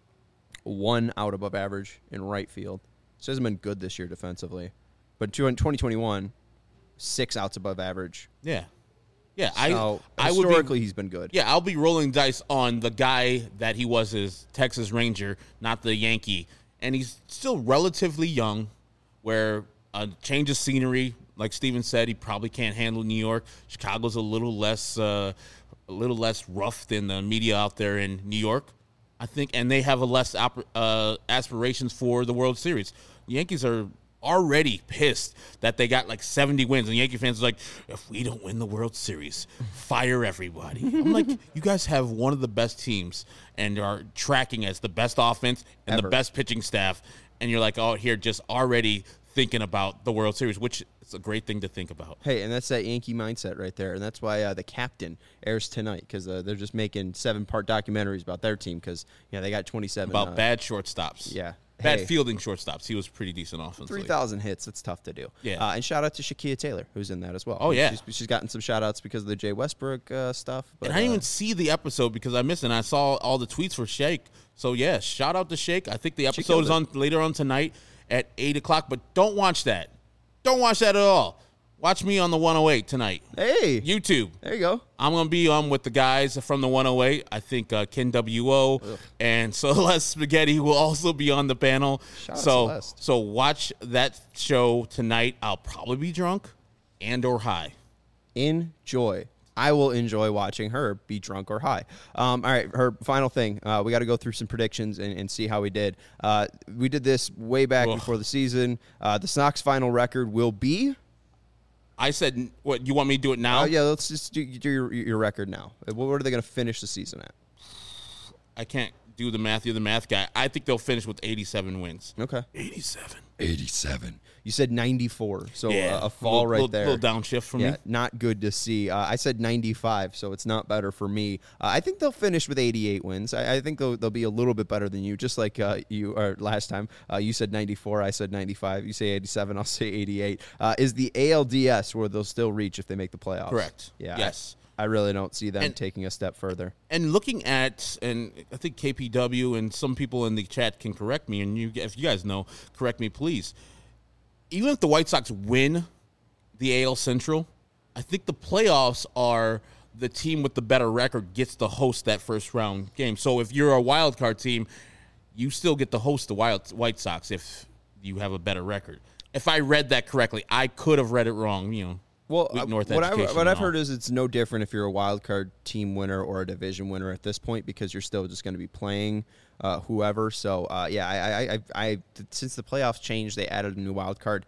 One out above average in right field. So hasn't been good this year defensively. But in twenty twenty-one, six outs above average. Yeah. Yeah, So I, I would historically, be, he's been good. Yeah, I'll be rolling dice on the guy that he was as Texas Ranger, not the Yankee. And he's still relatively young, where a change of scenery, like Steven said, he probably can't handle New York. Chicago's a little less, uh, a little less rough than the media out there in New York, I think, and they have a less op- uh, aspirations for the World Series. The Yankees are already pissed that they got like seventy wins, and Yankee fans are like, if we don't win the World Series, fire everybody. I'm like, you guys have one of the best teams and are tracking as the best offense and Ever. the best pitching staff, and you're like, oh, here, just already thinking about the World Series, which is a great thing to think about. Hey, and that's that Yankee mindset right there. And that's why uh, The Captain airs tonight, because uh, they're just making seven-part documentaries about their team because, yeah, they got twenty-seven. About uh, bad shortstops. Yeah. Bad Hey. fielding shortstops. He was pretty decent offensively. three thousand hits. It's tough to do. Yeah. Uh, and shout out to Shakia Taylor, who's in that as well. Oh, yeah. She's, she's gotten some shout outs because of the Jay Westbrook uh, stuff. But, And I didn't uh, even see the episode because I missed it. And I saw all the tweets for Shake. So, yeah, shout out to Shake. I think the episode killed is it. on later on tonight at eight o'clock. But don't watch that. Don't watch that at all. Watch me on the one oh eight tonight. Hey. YouTube. There you go. I'm going to be on with the guys from the one oh eight. I think uh, Ken W O and Celeste Spaghetti will also be on the panel. Shout out so, Celeste. so watch that show tonight. I'll probably be drunk and or high. Enjoy. I will enjoy watching her be drunk or high. Um, all right, her final thing. Uh, we got to go through some predictions and, and see how we did. Uh, we did this way back Ugh. before the season. Uh, the Sox final record will be. I said, what, you want me to do it now? Oh yeah, let's just do, do your, your record now. What are they going to finish the season at? I can't do the math. You're the math guy. I think they'll finish with eighty-seven wins. Okay. eighty-seven. eighty-seven. You said ninety-four, so Yeah. uh, a fall little, right little, there. little downshift for yeah, me. not good to see. Uh, I said ninety-five, so it's not better for me. Uh, I think they'll finish with eighty-eight wins. I, I think they'll, they'll be a little bit better than you, just like uh, you or last time. Uh, you said ninety-four, I said ninety-five. You say eighty-seven, I'll say eighty-eight. Uh, is the A L D S where they'll still reach if they make the playoffs? Correct. Yeah. Yes. I, I really don't see them And- taking a step further. And looking at, and I think K P W and some people in the chat can correct me, and you, if you guys know, correct me, please. Even if the White Sox win the A L Central, I think the playoffs are the team with the better record gets to host that first round game. So if you're a wild card team, you still get to host the Wild White Sox if you have a better record. If I read that correctly, I could have read it wrong. You know, Well, weak uh, North what, I, education what and I've all. heard is it's no different if you're a wild card team winner or a division winner at this point because you're still just going to be playing uh, whoever. So, uh, yeah, I, I, I, I, since the playoffs changed, they added a new wild card.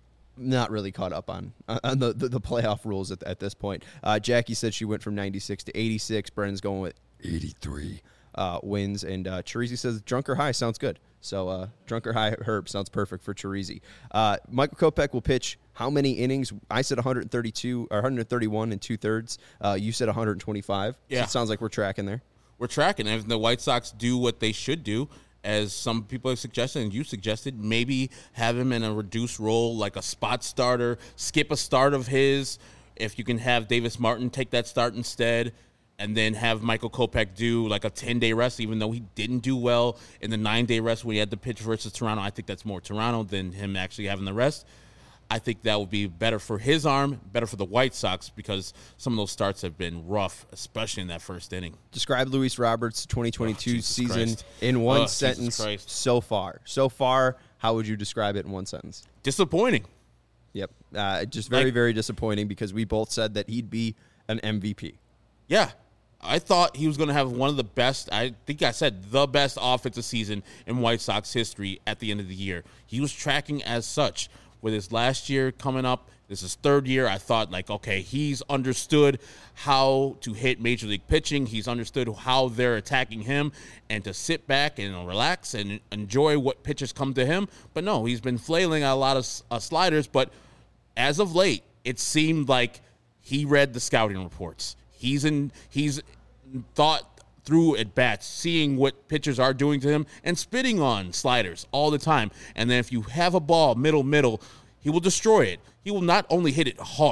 Not really caught up on on the, the, the playoff rules at, at this point. Uh, Jackie said she went from ninety-six to eighty-six. Brennan's going with eighty-three uh, wins. And uh, Chirizi says drunk or high sounds good. So uh, drunk or high Herb sounds perfect for Chirizi. Uh, Michael Kopech will pitch how many innings? I said one thirty-two or one thirty-one and two thirds. Uh, you said one twenty-five. Yeah. So it sounds like we're tracking there. We're tracking. And if the White Sox do what they should do, as some people have suggested and you suggested, maybe have him in a reduced role like a spot starter, skip a start of his. If you can have Davis Martin take that start instead, and then have Michael Kopech do like a ten-day rest, even though he didn't do well in the nine-day rest when he had the pitch versus Toronto. I think that's more Toronto than him actually having the rest. I think that would be better for his arm, better for the White Sox, because some of those starts have been rough, especially in that first inning. Describe Luis Roberts' twenty twenty-two Oh, Jesus season Christ. in one Oh, Jesus sentence Christ. so far. So far, how would you describe it in one sentence? Disappointing. Yep. Uh, just very, Like- very disappointing because we both said that he'd be an M V P. Yeah. I thought he was going to have one of the best, I think I said the best offensive season in White Sox history at the end of the year. He was tracking as such. With his last year coming up, this is third year, I thought, like, okay, he's understood how to hit Major League pitching. He's understood how they're attacking him, and to sit back and relax and enjoy what pitches come to him. But no, he's been flailing at a lot of uh, sliders. But as of late, it seemed like he read the scouting reports. He's in. He's thought through at bats, seeing what pitchers are doing to him, and spitting on sliders all the time. And then if you have a ball middle middle, he will destroy it. He will not only hit it hard,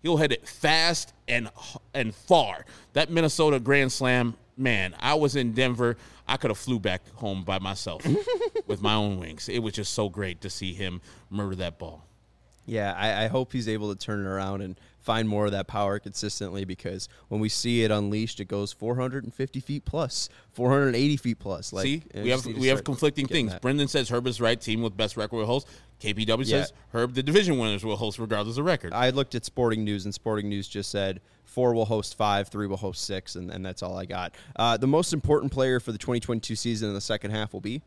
He'll hit it fast and and far. That Minnesota Grand Slam, man, I was in Denver. I could have flew back home by myself with my own wings. It was just so great to see him murder that ball. Yeah, I, I hope he's able to turn it around and find more of that power consistently, because when we see it unleashed, it goes four hundred fifty feet plus, four hundred eighty feet plus. Like, see, we have we have conflicting things. That. Brendan says Herb is right. Team with best record will host. K P W yeah. says Herb, the division winners, will host regardless of record. I looked at Sporting News, and Sporting News just said four will host five, three will host six, and, and that's all I got. Uh, the most important player for the twenty twenty-two season in the second half will be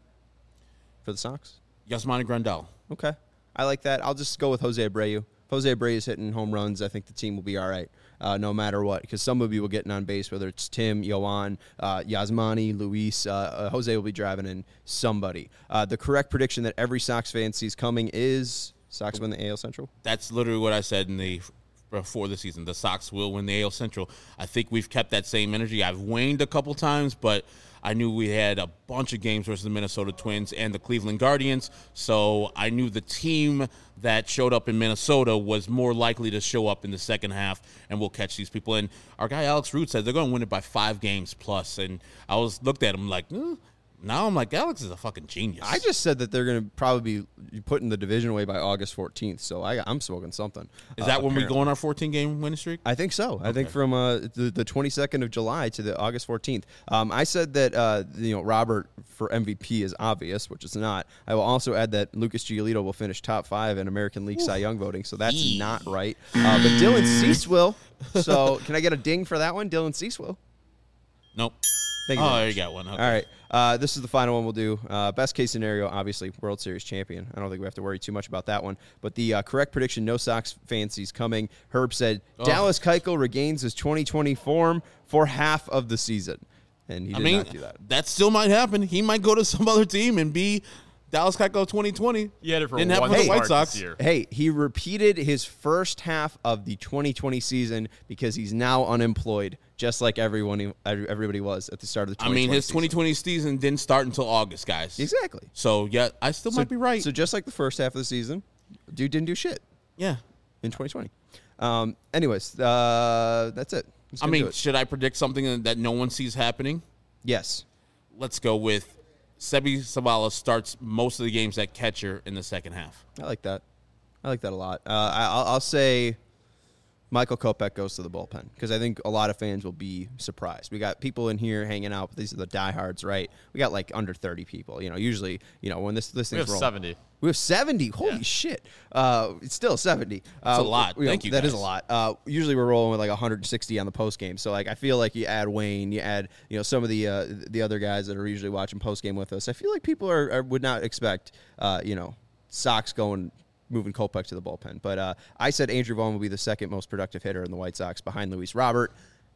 for the Sox? Yasmani Grandal. Okay. I like that. I'll just go with Jose Abreu. If Jose Abreu is hitting home runs, I think the team will be all right, uh, no matter what, because some of you will get on base, whether it's Tim, Yoan, uh, Yasmani, Luis. Uh, uh, Jose will be driving in somebody. Uh, the correct prediction that every Sox fan sees coming is Sox win the A L Central? That's literally what I said in the before the season. The Sox will win the A L Central. I think we've kept that same energy. I've waned a couple times, but I knew we had a bunch of games versus the Minnesota Twins and the Cleveland Guardians, so I knew the team that showed up in Minnesota was more likely to show up in the second half, and we'll catch these people. And our guy Alex Root said they're going to win it by five games plus, and I was looked at him like, eh. Now I'm like, Alex is a fucking genius. I just said that they're going to probably be putting the division away by August fourteenth, so I, I'm smoking something. Is that uh, when apparently. we go on our fourteen-game winning streak? I think so. Okay. I think from uh, the, the twenty-second of July to the August fourteenth. Um, I said that uh, you know Robert for M V P is obvious, which is not. I will also add that Lucas Giolito will finish top five in American League Ooh. Cy Young voting, so that's Yee. not right. Uh, but Dylan Cease will. So can I get a ding for that one? Dylan Cease will. Nope. Thank you oh, you got one. Okay. All right. Uh, this is the final one we'll do. Uh, best case scenario, obviously, World Series champion. I don't think we have to worry too much about that one. But the uh, correct prediction, no Sox fancies coming. Herb said oh. Dallas Keuchel regains his twenty twenty form for half of the season. And he did I mean, not do that. That still might happen. He might go to some other team and be Dallas Keuchel twenty twenty. He had it for Didn't one happen for the start White Sox. this year. Hey, he repeated his first half of the twenty twenty season because he's now unemployed, just like everyone, everybody was at the start of the twenty twenty I mean, his season. twenty twenty season didn't start until August, guys. Exactly. So, yeah, I still so, might be right. So just like the first half of the season, dude didn't do shit. Yeah. In twenty twenty. Um, anyways, uh, that's it. I mean, should I predict something that no one sees happening? Yes. Let's go with Sebi Zavala starts most of the games at catcher in the second half. I like that. I like that a lot. Uh, I, I'll, I'll say Michael Kopech goes to the bullpen because I think a lot of fans will be surprised. We got people in here hanging out. These are the diehards, right? We got like under thirty people. You know, usually, you know, when this this we thing's have rolling, seventy. We have seventy. Holy yeah. shit! Uh, it's still seventy. That's uh, a lot. You know, Thank you. That guys. is a lot. Uh, usually we're rolling with like one hundred sixty on the post game. So like I feel like you add Wayne, you add you know some of the uh, the other guys that are usually watching post game with us. I feel like people are, are would not expect uh, you know Sox going. Moving Kopech to the bullpen. But uh, I said Andrew Vaughn will be the second most productive hitter in the White Sox behind Luis Robert.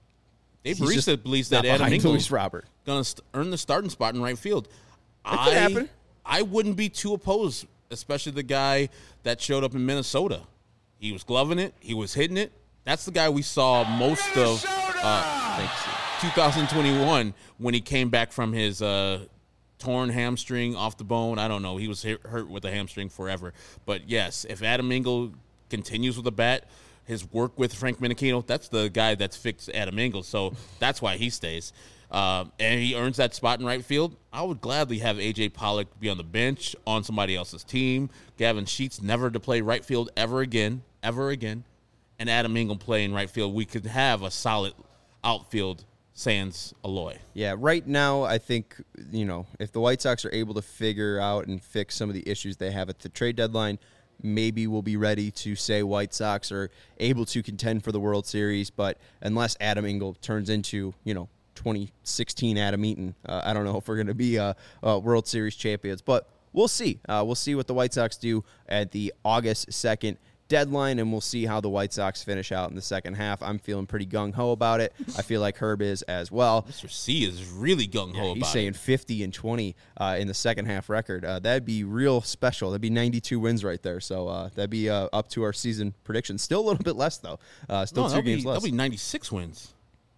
Dave Barista believes that Adam Luis Robert going to st- earn the starting spot in right field. That I, could happen. I wouldn't be too opposed, especially the guy that showed up in Minnesota. He was gloving it. He was hitting it. That's the guy we saw most of uh, thanks, twenty twenty-one when he came back from his uh, torn hamstring off the bone. I don't know. He was hurt with a hamstring forever. But, yes, if Adam Engel continues with the bat, his work with Frank Menechino, that's the guy that's fixed Adam Engel. So that's why he stays. Uh, and he earns that spot in right field. I would gladly have A J Pollock be on the bench on somebody else's team. Gavin Sheets never to play right field ever again, ever again. And Adam Engel play in right field. We could have a solid outfield sans Aloy. Yeah, right now I think, you know, if the White Sox are able to figure out and fix some of the issues they have at the trade deadline, maybe we'll be ready to say White Sox are able to contend for the World Series. But unless Adam Engel turns into, you know, twenty sixteen Adam Eaton, uh, I don't know if we're going to be uh, uh, World Series champions. But we'll see. Uh, we'll see what the White Sox do at the August second deadline, and we'll see how the White Sox finish out in the second half. I'm feeling pretty gung-ho about it. I feel like Herb is as well. Mister C is really gung-ho yeah, about it. He's saying fifty and twenty uh, in the second half record. Uh, that'd be real special. That'd be ninety-two wins right there. So uh, that'd be uh, up to our season prediction. Still a little bit less, though. Uh, still no, two that'll games be, less. That'll be ninety-six wins.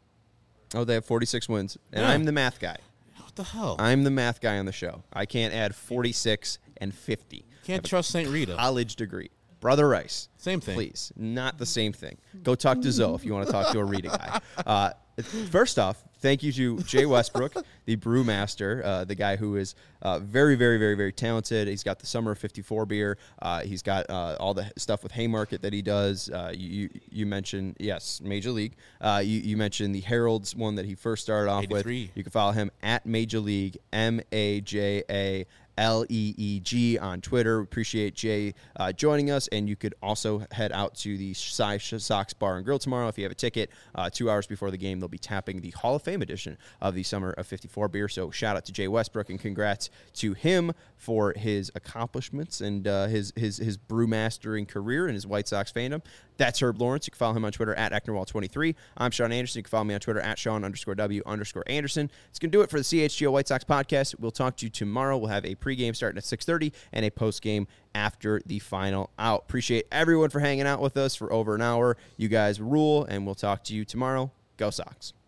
Oh, they have forty-six wins. And Yeah. I'm the math guy. What the hell? I'm the math guy on the show. I can't add forty-six and fifty. Can't trust Saint Rita. College degree. Brother Rice. Same thing. Please, not the same thing. Go talk to Zoe if you want to talk to a Rita guy. Uh, first off, thank you to Jay Westbrook, the brewmaster, uh, the guy who is uh, very, very, very, very talented. He's got the Summer of fifty-four beer. Uh, he's got uh, all the stuff with Haymarket that he does. Uh, you you mentioned, yes, Major League. Uh, you, you mentioned the Herald's one that he first started off with. eighty-three. You can follow him at Major League, M A J A L E E G on Twitter. Appreciate Jay uh, joining us, and you could also head out to the Cy Sox Bar and Grill tomorrow if you have a ticket. Uh, two hours before the game, they'll be tapping the Hall of Fame edition of the Summer of fifty-four beer. So shout out to Jay Westbrook, and congrats to him for his accomplishments and uh, his his his brewmastering career and his White Sox fandom. That's Herb Lawrence. You can follow him on Twitter at Ecknerwall twenty-three. I'm Sean Anderson. You can follow me on Twitter at Sean underscore W underscore Anderson. It's going to do it for the C H G O White Sox podcast. We'll talk to you tomorrow. We'll have a pregame starting at six thirty and a postgame after the final out. Appreciate everyone for hanging out with us for over an hour. You guys rule, and we'll talk to you tomorrow. Go Sox.